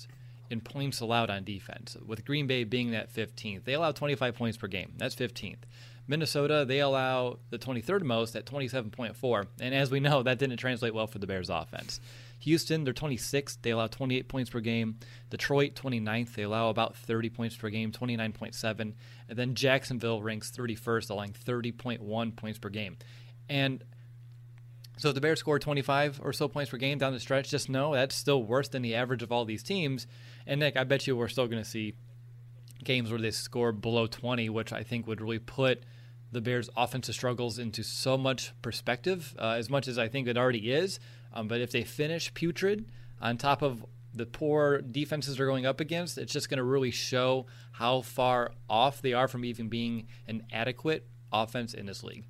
in points allowed on defense, with Green Bay being that fifteenth. They allow twenty-five points per game. That's fifteenth. Minnesota, they allow the twenty-third most at twenty-seven point four. And as we know, that didn't translate well for the Bears offense. Houston, they're twenty-sixth. They allow twenty-eight points per game. Detroit, twenty-ninth. They allow about thirty points per game, twenty-nine point seven. And then Jacksonville ranks thirty-first, allowing thirty point one points per game. And so if the Bears score twenty-five or so points per game down the stretch, just know that's still worse than the average of all these teams. And, Nick, I bet you we're still going to see games where they score below twenty, which I think would really put the Bears' offensive struggles into so much perspective, uh, as much as I think it already is. Um, but if they finish putrid on top of the poor defenses they're going up against, it's just going to really show how far off they are from even being an adequate offense in this league.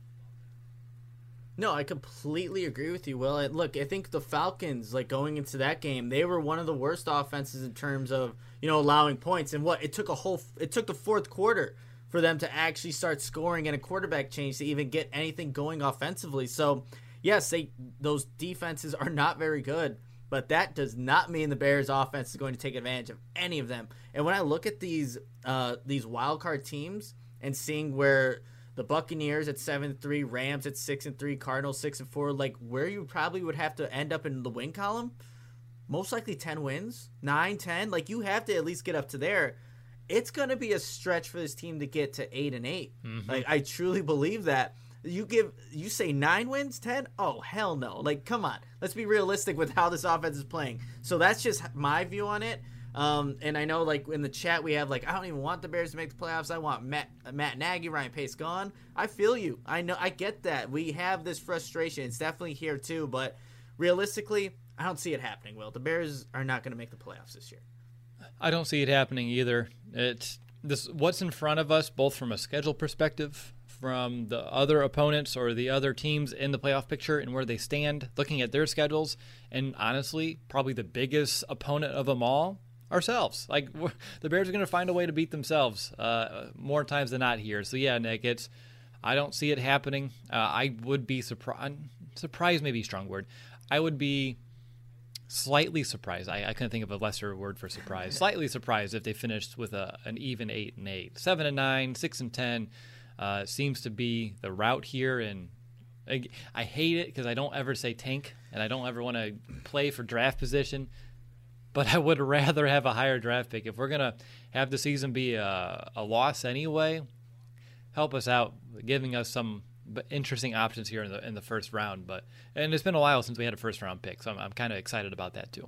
No, I completely agree with you, Will. Look, I think the Falcons, like going into that game, they were one of the worst offenses in terms of, you know, allowing points. And what it took a whole, it took the fourth quarter for them to actually start scoring and a quarterback change to even get anything going offensively. So, yes, they those defenses are not very good, but that does not mean the Bears' offense is going to take advantage of any of them. And when I look at these uh, these wild card teams and seeing where the Buccaneers at seven and three, Rams at six and three, Cardinals six and four, like where you probably would have to end up in the win column, most likely ten wins, nine, ten. Like you have to at least get up to there. It's going to be a stretch for this team to get to eight and eight. Mm-hmm. Like I truly believe that. You give you say nine wins, ten? Oh hell no! Like come on, let's be realistic with how this offense is playing. So that's just my view on it. Um, and I know like in the chat we have like I don't even want the Bears to make the playoffs. I want Matt Matt Nagy, Ryan Pace gone. I feel you. I know I get that. We have this frustration. It's definitely here too. But realistically, I don't see it happening. Will the Bears are not going to make the playoffs this year? I don't see it happening either. It's this what's in front of us, both from a schedule perspective, from the other opponents or the other teams in the playoff picture and where they stand, looking at their schedules, and honestly, probably the biggest opponent of them all, ourselves. Like the Bears are going to find a way to beat themselves uh, more times than not here. So yeah, Nick, it's I don't see it happening. Uh, I would be surprised. Surprised, maybe a strong word. I would be slightly surprised. I, I couldn't think of a lesser word for surprise. Slightly surprised if they finished with a an even eight and eight, seven and nine, six and ten. Uh, seems to be the route here, and I, I hate it because I don't ever say tank, and I don't ever want to play for draft position. But I would rather have a higher draft pick. If we're gonna have the season be a, a loss anyway, help us out, giving us some interesting options here in the in the first round. But and it's been a while since we had a first round pick, so I'm I'm kind of excited about that too.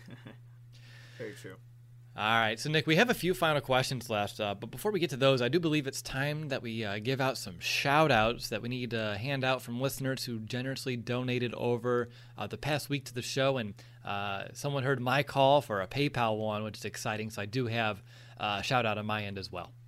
Very true. All right, so Nick, we have a few final questions left, uh, but before we get to those, I do believe it's time that we uh, give out some shout-outs that we need to hand out from listeners who generously donated over uh, the past week to the show, and uh, someone heard my call for a PayPal one, which is exciting, so I do have uh, a shout-out on my end as well.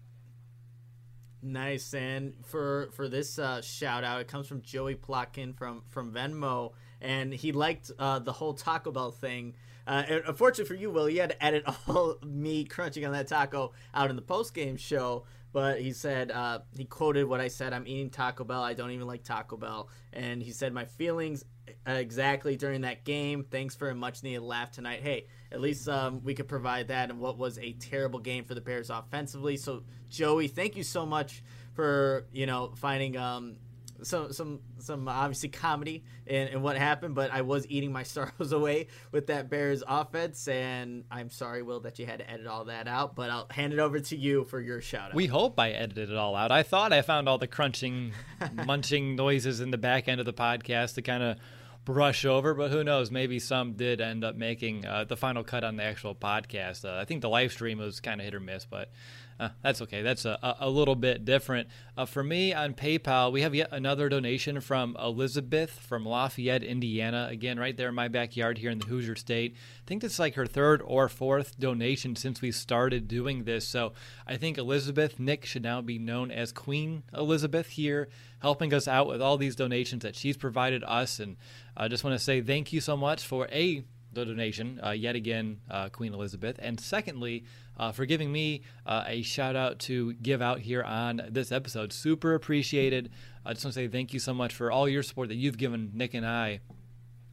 Nice, and for for this uh, shout-out, it comes from Joey Plotkin from, from Venmo, and he liked uh, the whole Taco Bell thing. Uh, and unfortunately for you, Will, you had to edit all me crunching on that taco out in the post-game show. But he said, uh, he quoted what I said, I'm eating Taco Bell. I don't even like Taco Bell. And he said, my feelings exactly during that game. Thanks for a much-needed laugh tonight. Hey, at least um, we could provide that in what was a terrible game for the Bears offensively. So, Joey, thank you so much for, you know, finding um, – Some some some obviously comedy in, in what happened, but I was eating my sorrows away with that Bears offense, and I'm sorry, Will, that you had to edit all that out, but I'll hand it over to you for your shout-out. We hope I edited it all out. I thought I found all the crunching, munching noises in the back end of the podcast to kind of brush over, but who knows? Maybe some did end up making uh, the final cut on the actual podcast. Uh, I think the live stream was kind of hit or miss, but Uh, that's okay. That's a, a little bit different. Uh, for me on PayPal, we have yet another donation from Elizabeth from Lafayette, Indiana. Again, right there in my backyard here in the Hoosier State. I think this is like her third or fourth donation since we started doing this. So I think Elizabeth, Nick, should now be known as Queen Elizabeth here, helping us out with all these donations that she's provided us. And I just want to say thank you so much for A, the donation, uh, yet again, uh, Queen Elizabeth. And secondly, uh, for giving me uh, a shout out to give out here on this episode. Super appreciated. I just want to say thank you so much for all your support that you've given Nick and I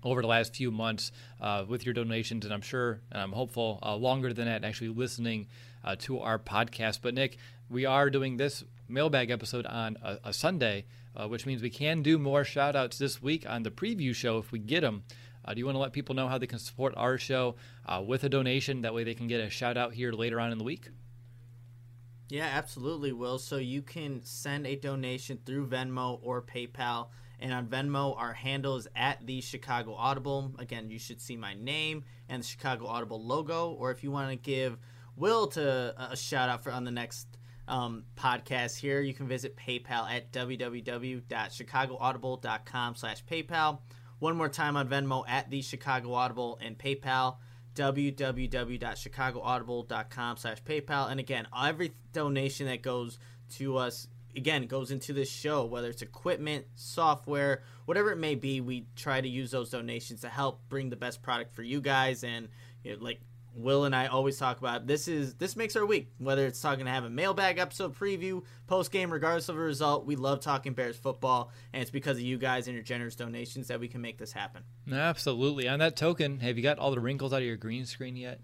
over the last few months uh, with your donations, and I'm sure and I'm hopeful uh, longer than that actually listening uh, to our podcast. But Nick, we are doing this mailbag episode on a, a Sunday, uh, which means we can do more shout outs this week on the preview show if we get them. Uh, do you want to let people know how they can support our show uh, with a donation? That way they can get a shout out here later on in the week. Yeah, absolutely, Will. So you can send a donation through Venmo or PayPal. And on Venmo, our handle is at the Chicago Audible. Again, you should see my name and the Chicago Audible logo. Or if you want to give Will to a shout out for on the next um, podcast here, you can visit PayPal at www.chicagoaudible.com slash PayPal. One more time on Venmo at the Chicago Audible and PayPal, www.chicagoaudible.com slash PayPal. And again, every donation that goes to us, again, goes into this show, whether it's equipment, software, whatever it may be. We try to use those donations to help bring the best product for you guys. And you know, like Will and I always talk about, this is this makes our week, whether it's talking to have a mailbag episode preview, post game, regardless of the result. We love talking Bears football, and it's because of you guys and your generous donations that we can make this happen. Absolutely. On that token, have you got all the wrinkles out of your green screen yet?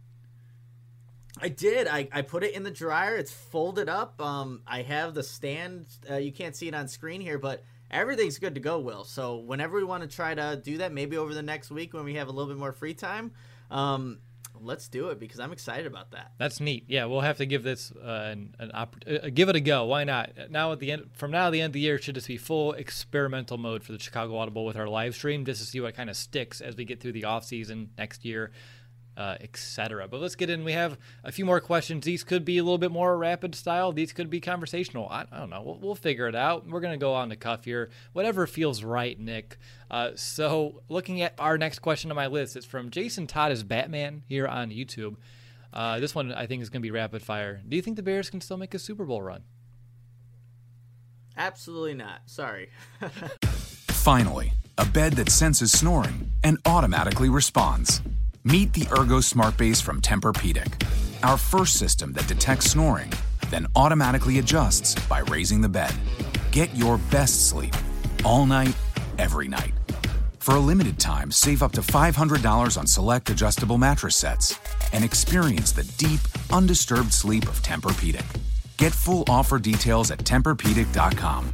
I did. I, I put it in the dryer. It's folded up. Um, I have the stand. Uh, you can't see it on screen here, but everything's good to go, Will. So whenever we want to try to do that, maybe over the next week when we have a little bit more free time, um, let's do it because I'm excited about that. That's neat. Yeah, we'll have to give this uh, an, an opp- uh, give it a go. Why not? Now at the end, from now to the end of the year, it should just be full experimental mode for the Chicago Audible with our live stream, just to see what kind of sticks as we get through the off season next year. Uh, et cetera. But let's get in. We have a few more questions. These could be a little bit more rapid style. These could be conversational. I, I don't know. We'll, we'll figure it out. We're going to go on the cuff here. Whatever feels right, Nick. Uh, so looking at our next question on my list, it's from Jason Todd as Batman here on YouTube. Uh, this one I think is going to be rapid fire. Do you think the Bears can still make a Super Bowl run? Absolutely not. Sorry. Finally, a bed that senses snoring and automatically responds. Meet the Ergo Smart Base from Tempur-Pedic, our first system that detects snoring, then automatically adjusts by raising the bed. Get your best sleep all night, every night. For a limited time, save up to five hundred dollars on select adjustable mattress sets and experience the deep, undisturbed sleep of Tempur-Pedic. Get full offer details at Tempur Pedic dot com.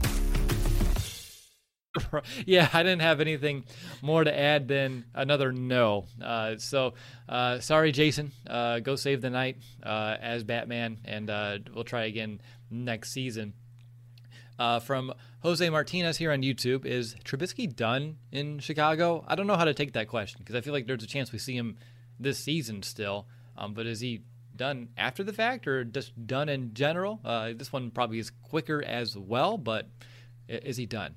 Yeah, I didn't have anything more to add than another no. Uh, so, uh, sorry, Jason. Uh, go save the night uh, as Batman, and uh, we'll try again next season. Uh, from Jose Martinez here on YouTube, is Trubisky done in Chicago? I don't know how to take that question because I feel like there's a chance we see him this season still. Um, but is he done after the fact or just done in general? Uh, this one probably is quicker as well, but is he done?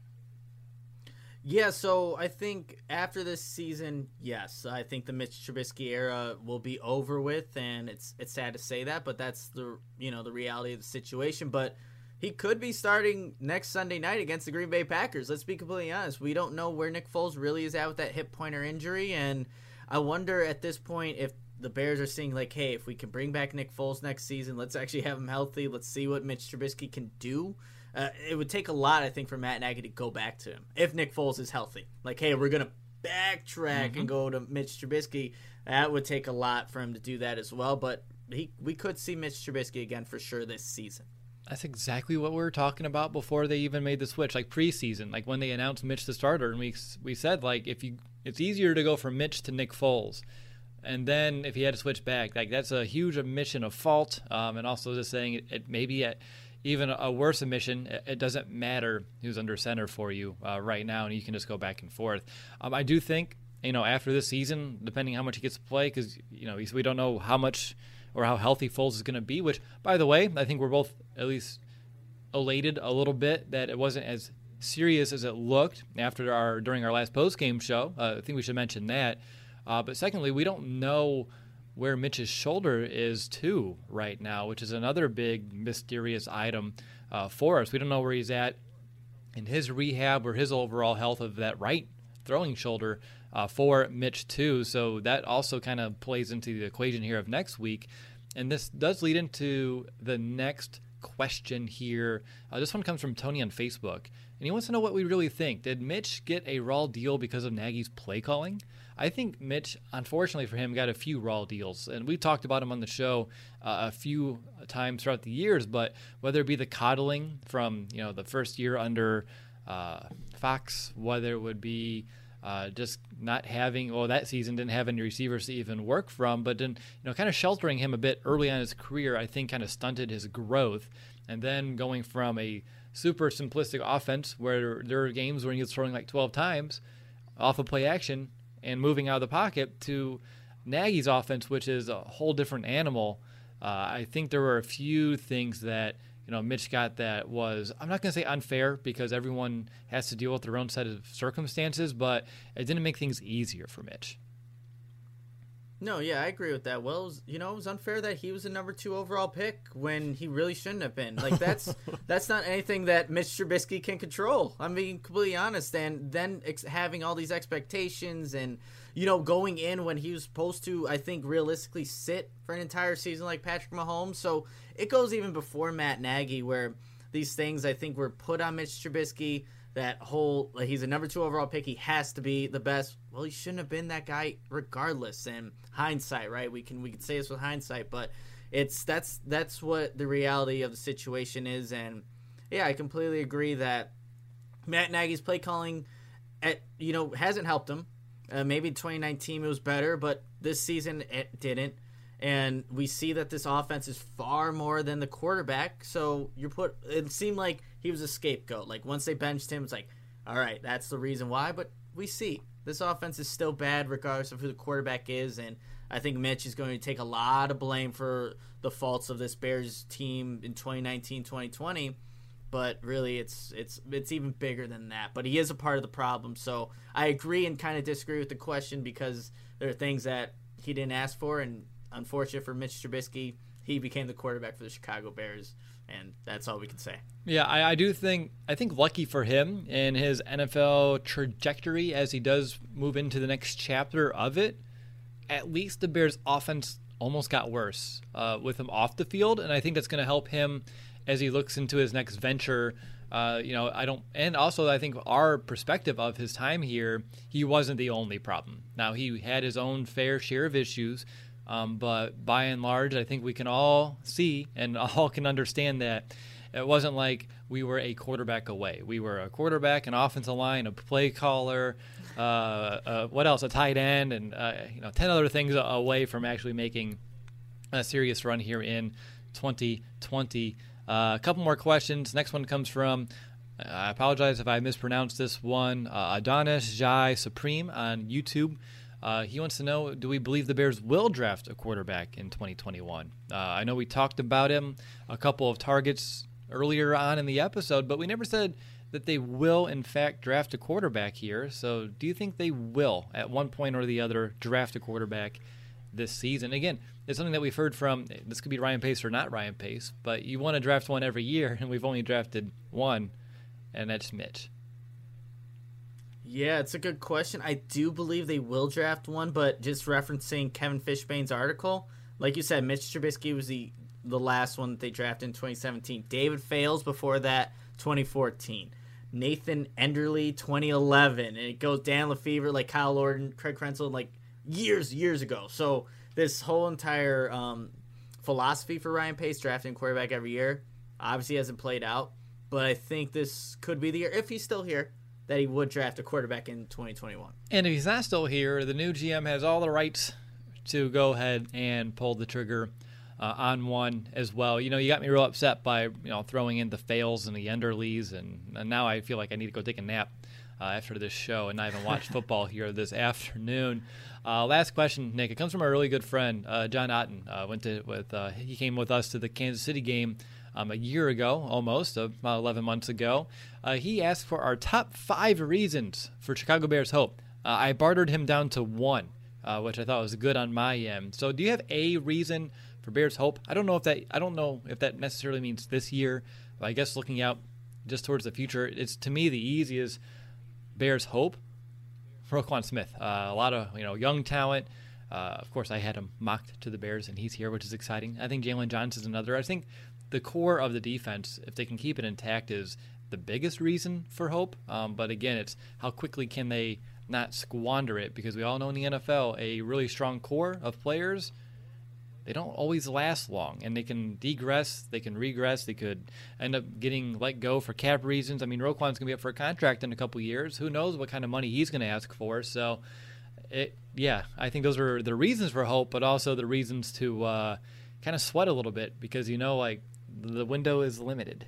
Yeah, so I think after this season, yes, I think the Mitch Trubisky era will be over with, and it's it's sad to say that, but that's the you know the reality of the situation. But he could be starting next Sunday night against the Green Bay Packers. Let's be completely honest. We don't know where Nick Foles really is at with that hip pointer injury, and I wonder at this point if the Bears are seeing like, hey, if we can bring back Nick Foles next season, let's actually have him healthy. Let's see what Mitch Trubisky can do. Uh, it would take a lot, I think, for Matt Nagy to go back to him if Nick Foles is healthy. Like, hey, we're going to backtrack mm-hmm. and go to Mitch Trubisky. That would take a lot for him to do that as well. But he, we could see Mitch Trubisky again for sure this season. That's exactly what we were talking about before they even made the switch, like preseason, like when they announced Mitch the starter, and we we said like if you it's easier to go from Mitch to Nick Foles, and then if he had to switch back, like that's a huge admission of fault, um, and also just saying it, it maybe at even a worse admission, it doesn't matter who's under center for you uh, right now, and you can just go back and forth. Um, I do think, you know, after this season, depending how much he gets to play, because, you know, we don't know how much or how healthy Foles is going to be, which, by the way, I think we're both at least elated a little bit that it wasn't as serious as it looked after our during our last post-game show. Uh, I think we should mention that. Uh, but secondly, we don't know where Mitch's shoulder is too right now, which is another big mysterious item uh, for us. We don't know where he's at in his rehab or his overall health of that right throwing shoulder uh, for Mitch too. So that also kind of plays into the equation here of next week. And this does lead into the next question here. Uh, this one comes from Tony on Facebook, and he wants to know what we really think. Did Mitch get a raw deal because of Nagy's play calling? I think Mitch, unfortunately for him, got a few raw deals, and we talked about him on the show uh, a few times throughout the years. But whether it be the coddling from you know the first year under uh, Fox, whether it would be uh, just not having, well, that season didn't have any receivers to even work from, but then you know kind of sheltering him a bit early on in his career, I think kind of stunted his growth, and then going from a super simplistic offense where there are games when he was throwing like twelve times off of play action and moving out of the pocket to Nagy's offense, which is a whole different animal. Uh, I think there were a few things that you know Mitch got that was, I'm not going to say unfair because everyone has to deal with their own set of circumstances, but it didn't make things easier for Mitch. No, yeah, I agree with that. Well, it was, you know, it was unfair that he was a number two overall pick when he really shouldn't have been. Like, that's that's not anything that Mitch Trubisky can control. I'm being completely honest. And then ex- having all these expectations and, you know, going in when he was supposed to, I think, realistically sit for an entire season like Patrick Mahomes. So it goes even before Matt Nagy where these things, I think, were put on Mitch Trubisky. That whole, like, he's a number two overall pick. He has to be the best. Well, he shouldn't have been that guy regardless. And hindsight, right? We can we can say this with hindsight, but it's that's that's what the reality of the situation is. And yeah, I completely agree that Matt Nagy's play calling, at you know, hasn't helped him. Uh, maybe in twenty nineteen it was better, but this season it didn't. And we see that this offense is far more than the quarterback. So you put it seemed like he was a scapegoat. Like once they benched him, it's like, all right, that's the reason why. But we see this offense is still bad regardless of who the quarterback is. And I think Mitch is going to take a lot of blame for the faults of this Bears team in twenty nineteen, twenty twenty. But really, it's it's it's even bigger than that. But he is a part of the problem. So I agree and kind of disagree with the question because there are things that he didn't ask for, and unfortunate for Mitch Trubisky, he became the quarterback for the Chicago Bears, and that's all we can say. Yeah, I, I do think I think lucky for him in his N F L trajectory as he does move into the next chapter of it. At least the Bears' offense almost got worse uh, with him off the field, and I think that's going to help him as he looks into his next venture. Uh, you know, I don't, and also I think our perspective of his time here, he wasn't the only problem. Now he had his own fair share of issues. Um, but by and large, I think we can all see and all can understand that it wasn't like we were a quarterback away. We were a quarterback, an offensive line, a play caller, uh, uh, what else, a tight end, and uh, you know, ten other things away from actually making a serious run here in twenty twenty. Uh, a couple more questions. Next one comes from, I apologize if I mispronounced this one, uh, Adonis Jai Supreme on YouTube. Uh, he wants to know, do we believe the Bears will draft a quarterback in twenty twenty-one? Uh, I know we talked about him, a couple of targets earlier on in the episode, but we never said that they will, in fact, draft a quarterback here. So do you think they will, at one point or the other, draft a quarterback this season? Again, it's something that we've heard from, this could be Ryan Pace or not Ryan Pace, but you want to draft one every year, and we've only drafted one, and that's Mitch. Yeah, it's a good question. I do believe they will draft one, but just referencing Kevin Fishbane's article, like you said, Mitch Trubisky was the, the last one that they drafted in twenty seventeen. David Fales before that, twenty fourteen. Nathan Enderle, twenty eleven. And it goes Dan Lefevre, like Kyle Orton, Craig Krenzel, like years, years ago. So this whole entire um, philosophy for Ryan Pace, drafting quarterback every year, obviously hasn't played out. But I think this could be the year, if he's still here, that he would draft a quarterback in twenty twenty-one. And if he's not still here, the new G M has all the rights to go ahead and pull the trigger uh, on one as well. You know, you got me real upset by, you know, throwing in the Fails and the Enderleys, and, and now I feel like I need to go take a nap uh, after this show and not even watch football here this afternoon. Uh, last question, Nick. It comes from a really good friend, uh, John Otten. Uh, went to with uh, he came with us to the Kansas City game Um, a year ago, almost, about eleven months ago. Uh, he asked for our top five reasons for Chicago Bears hope. Uh, I bartered him down to one, uh, which I thought was good on my end. So do you have a reason for Bears hope? I don't know if that I don't know if that necessarily means this year, but I guess looking out just towards the future, it's to me the easiest Bears hope. Roquan Smith, uh, a lot of you know young talent. Uh, of course, I had him mocked to the Bears, and he's here, which is exciting. I think Jalen Johnson's another. I think the core of the defense, if they can keep it intact, is the biggest reason for hope. Um, but again, it's how quickly can they not squander it, because we all know in the N F L, a really strong core of players, they don't always last long, and they can degress, they can regress, they could end up getting let go for cap reasons. I mean, Roquan's going to be up for a contract in a couple years. Who knows what kind of money he's going to ask for? So, it, yeah, I think those are the reasons for hope, but also the reasons to uh, kind of sweat a little bit, because, you know, like, the window is limited.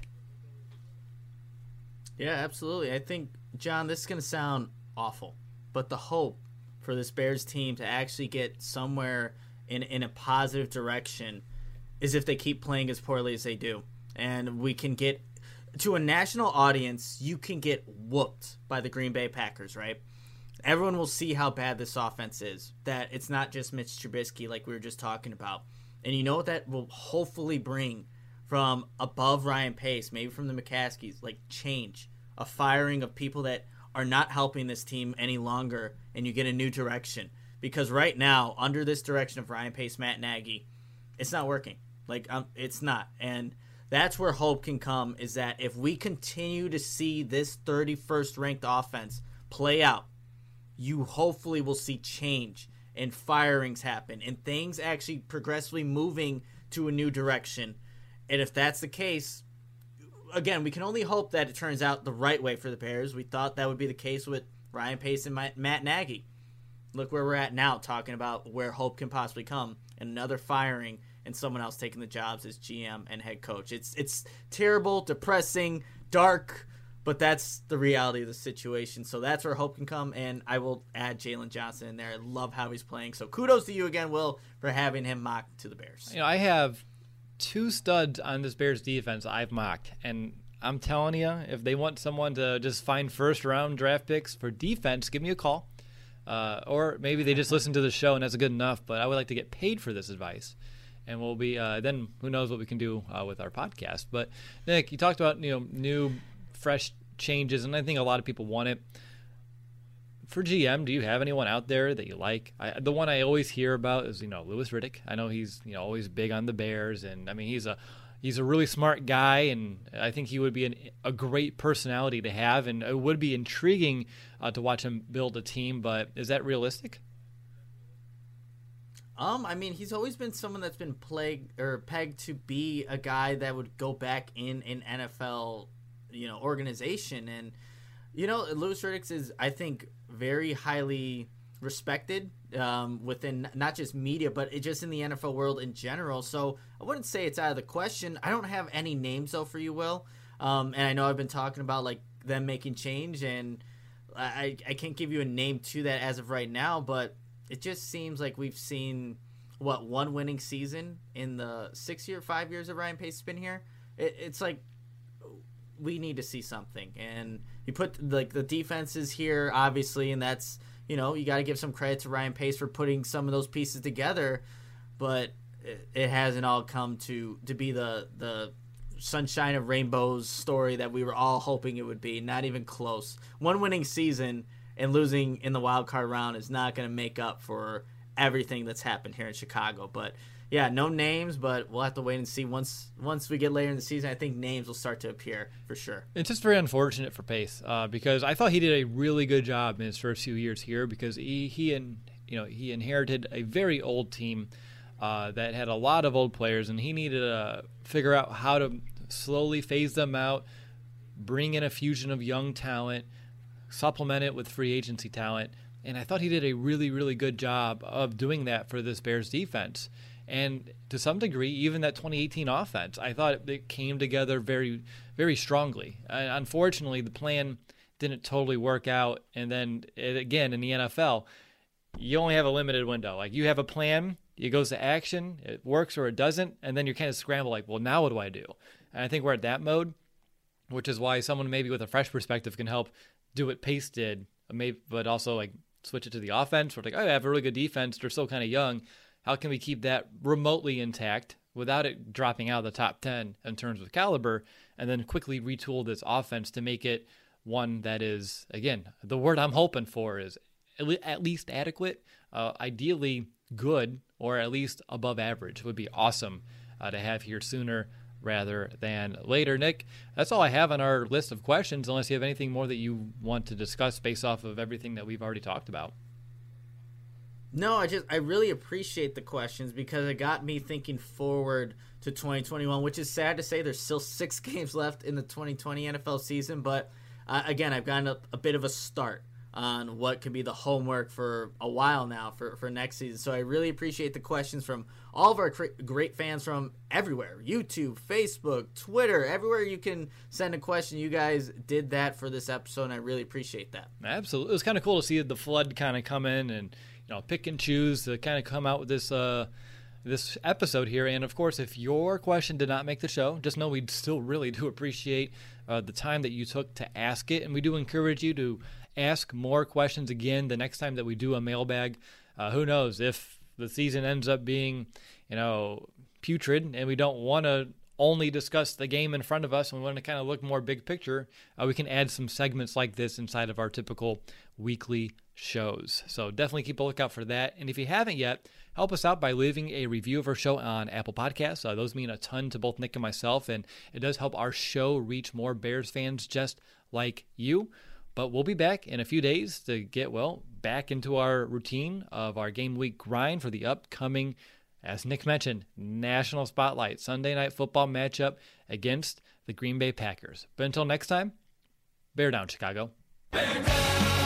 Yeah, absolutely. I think, John, this is going to sound awful, but the hope for this Bears team to actually get somewhere in in a positive direction is if they keep playing as poorly as they do. And we can get to a national audience, you can get whooped by the Green Bay Packers, right? Everyone will see how bad this offense is, that it's not just Mitch Trubisky like we were just talking about. And you know what that will hopefully bring from above Ryan Pace, maybe from the McCaskies, like change, a firing of people that are not helping this team any longer, and you get a new direction. Because right now, under this direction of Ryan Pace, Matt Nagy, it's not working. Like, um, it's not. And that's where hope can come, is that if we continue to see this thirty-first ranked offense play out, you hopefully will see change and firings happen and things actually progressively moving to a new direction. And if that's the case, again, we can only hope that it turns out the right way for the Bears. We thought that would be the case with Ryan Pace and Matt Nagy. Look where we're at now, talking about where hope can possibly come, and another firing and someone else taking the jobs as G M and head coach. It's it's terrible, depressing, dark, but that's the reality of the situation. So that's where hope can come, and I will add Jalen Johnson in there. I love how he's playing. So kudos to you again, Will, for having him mocked to the Bears. You know, I have two studs on this Bears defense I've mocked, and I'm telling you, if they want someone to just find first-round draft picks for defense, give me a call. Uh, or maybe they just listen to the show and that's good enough, but I would like to get paid for this advice. And we'll be, uh, then who knows what we can do uh, with our podcast. But Nick, you talked about, you know, new, fresh changes, and I think a lot of people want it. For G M, do you have anyone out there that you like? I, the one I always hear about is, you know, Louis Riddick. I know he's, you know, always big on the Bears, and I mean, he's a he's a really smart guy, and I think he would be an, a great personality to have, and it would be intriguing uh, to watch him build a team. But is that realistic? Um, I mean, he's always been someone that's been plagued or pegged to be a guy that would go back in an N F L, you know, organization, and you know, Louis Riddick is, I think, very highly respected um, within not just media, but it just in the N F L world in general. So I wouldn't say it's out of the question. I don't have any names though for you, Will. Um, and I know I've been talking about like them making change, and I I can't give you a name to that as of right now, but it just seems like we've seen what one winning season in the six year, five years of Ryan Pace's been here. It, it's like we need to see something, and you put like the defenses here, obviously, and that's, you know, you got to give some credit to Ryan Pace for putting some of those pieces together, but it, it hasn't all come to to be the the sunshine of rainbows story that we were all hoping it would be. Not even close. One winning season and losing in the wild card round is not going to make up for everything that's happened here in Chicago. But yeah, no names, but we'll have to wait and see. Once once we get later in the season, I think names will start to appear for sure. It's just very unfortunate for Pace uh, because I thought he did a really good job in his first few years here, because he he and you know he inherited a very old team uh, that had a lot of old players, and he needed to figure out how to slowly phase them out, bring in a fusion of young talent, supplement it with free agency talent, and I thought he did a really, really good job of doing that for this Bears defense. And to some degree, even that twenty eighteen offense, I thought it came together very, very strongly. Uh, unfortunately, the plan didn't totally work out, and then, it, again, in the N F L, you only have a limited window. Like, you have a plan, it goes to action, it works or it doesn't, and then you're kind of scrambled like, well, now what do I do? And I think we're at that mode, which is why someone maybe with a fresh perspective can help do what Pace did, maybe, but also like switch it to the offense. We're like, oh, I have a really good defense. They're still kind of young. How can we keep that remotely intact without it dropping out of the top ten in terms of caliber, and then quickly retool this offense to make it one that is, again, the word I'm hoping for is at least adequate, uh, ideally good, or at least above average would be awesome uh, to have here sooner rather than later. Nick, that's all I have on our list of questions, unless you have anything more that you want to discuss based off of everything that we've already talked about. No, I just I really appreciate the questions because it got me thinking forward to twenty twenty-one, which is sad to say. There's still six games left in the twenty twenty N F L season, but uh, again, I've gotten a, a bit of a start on what could be the homework for a while now for, for next season. So I really appreciate the questions from all of our cr- great fans from everywhere. YouTube, Facebook, Twitter, everywhere you can send a question. You guys did that for this episode, and I really appreciate that. Absolutely. It was kind of cool to see the flood kind of come in and, you know, pick and choose to kind of come out with this uh, this episode here. And, of course, if your question did not make the show, just know we still really do appreciate uh, the time that you took to ask it. And we do encourage you to ask more questions again the next time that we do a mailbag. Uh, who knows if the season ends up being, you know, putrid and we don't want to only discuss the game in front of us and we want to kind of look more big picture, uh, we can add some segments like this inside of our typical weekly shows. So definitely keep a lookout for that. And if you haven't yet, help us out by leaving a review of our show on Apple Podcasts. Uh, those mean a ton to both Nick and myself, and it does help our show reach more Bears fans just like you. But we'll be back in a few days to get, well, back into our routine of our game week grind for the upcoming, as Nick mentioned, National Spotlight Sunday Night Football matchup against the Green Bay Packers. But until next time, bear down, Chicago. Bear down!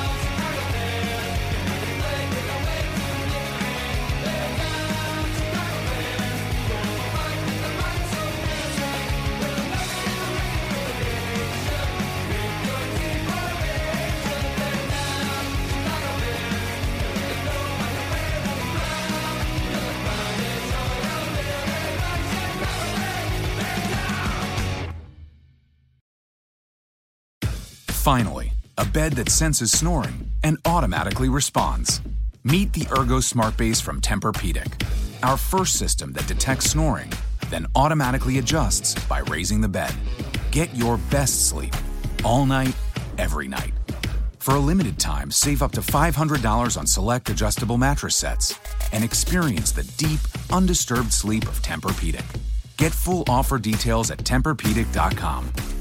Finally, a bed that senses snoring and automatically responds. Meet the Ergo Smart Base from Tempur-Pedic, our first system that detects snoring, then automatically adjusts by raising the bed. Get your best sleep all night, every night. For a limited time, save up to five hundred dollars on select adjustable mattress sets and experience the deep, undisturbed sleep of Tempur-Pedic. Get full offer details at Tempur Pedic dot com.